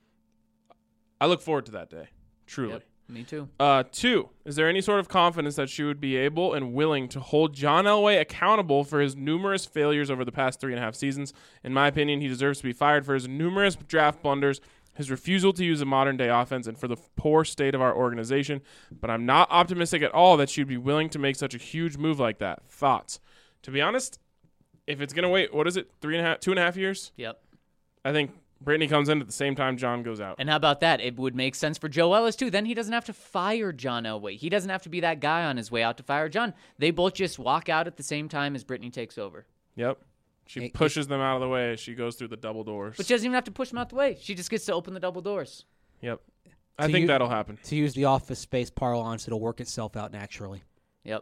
I look forward to that day. Truly. Yep. Me too. 2, is there any sort of confidence that she would be able and willing to hold John Elway accountable for his numerous failures over the past 3.5 seasons? In my opinion, he deserves to be fired for his numerous draft blunders, his refusal to use a modern-day offense, and for the poor state of our organization. But I'm not optimistic at all that she'd be willing to make such a huge move like that. Thoughts? To be honest, if it's going to wait, what is it, 2.5 years? Yep. I think Brittany comes in at the same time John goes out. And how about that? It would make sense for Joe Ellis, too. Then he doesn't have to fire John Elway. He doesn't have to be that guy on his way out to fire John. They both just walk out at the same time as Brittany takes over. Yep. She pushes them out of the way as she goes through the double doors. But she doesn't even have to push them out the way. She just gets to open the double doors. Yep. I think that'll happen. To use the Office Space parlance, it'll work itself out naturally. Yep.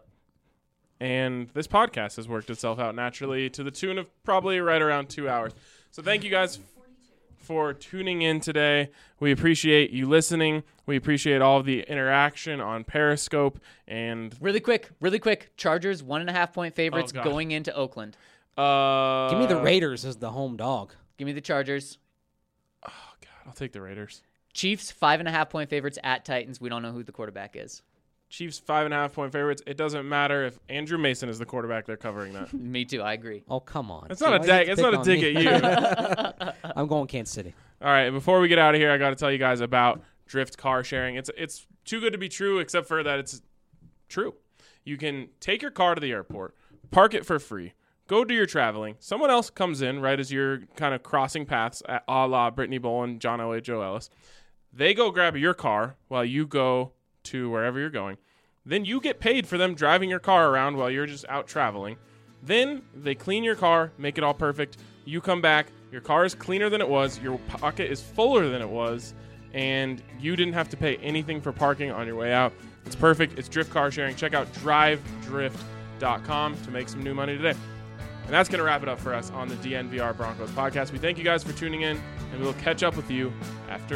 And this podcast has worked itself out naturally to the tune of probably right around 2 hours. So thank you guys for tuning in today. We appreciate you listening. We appreciate all of the interaction on Periscope. And Really quick. Chargers 1.5-point favorites God. going into Oakland. Give me the Raiders as the home dog. Give me the Chargers. Oh, God. I'll take the Raiders. Chiefs 5.5-point favorites at Titans. We don't know who the quarterback is. Chiefs 5.5-point favorites. It doesn't matter if Andrew Mason is the quarterback. They're covering that. Me too. I agree. Oh, come on. It's not a dig. It's not a dig at you. I'm going Kansas City. All right. Before we get out of here, I got to tell you guys about Drift car sharing. It's too good to be true, except for that it's true. You can take your car to the airport, park it for free, go do your traveling. Someone else comes in right as you're kind of crossing paths, a la Brittany Bowen, John Elway, Joe Ellis. They go grab your car while you go to wherever you're going. Then you get paid for them driving your car around while you're just out traveling. Then they clean your car, make it all perfect. You come back, your car is cleaner than it was, your pocket is fuller than it was, and you didn't have to pay anything for parking on your way out. It's perfect. It's Drift car sharing. Check out drivedrift.com to make some new money today. And that's going to wrap it up for us on the DNVR Broncos podcast. We thank you guys for tuning in, and we will catch up with you at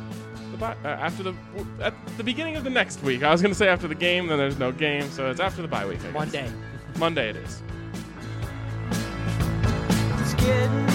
the beginning of the next week. I was going to say after the game, then there's no game, so it's after the bye week. I guess. Monday. Monday it is. It's getting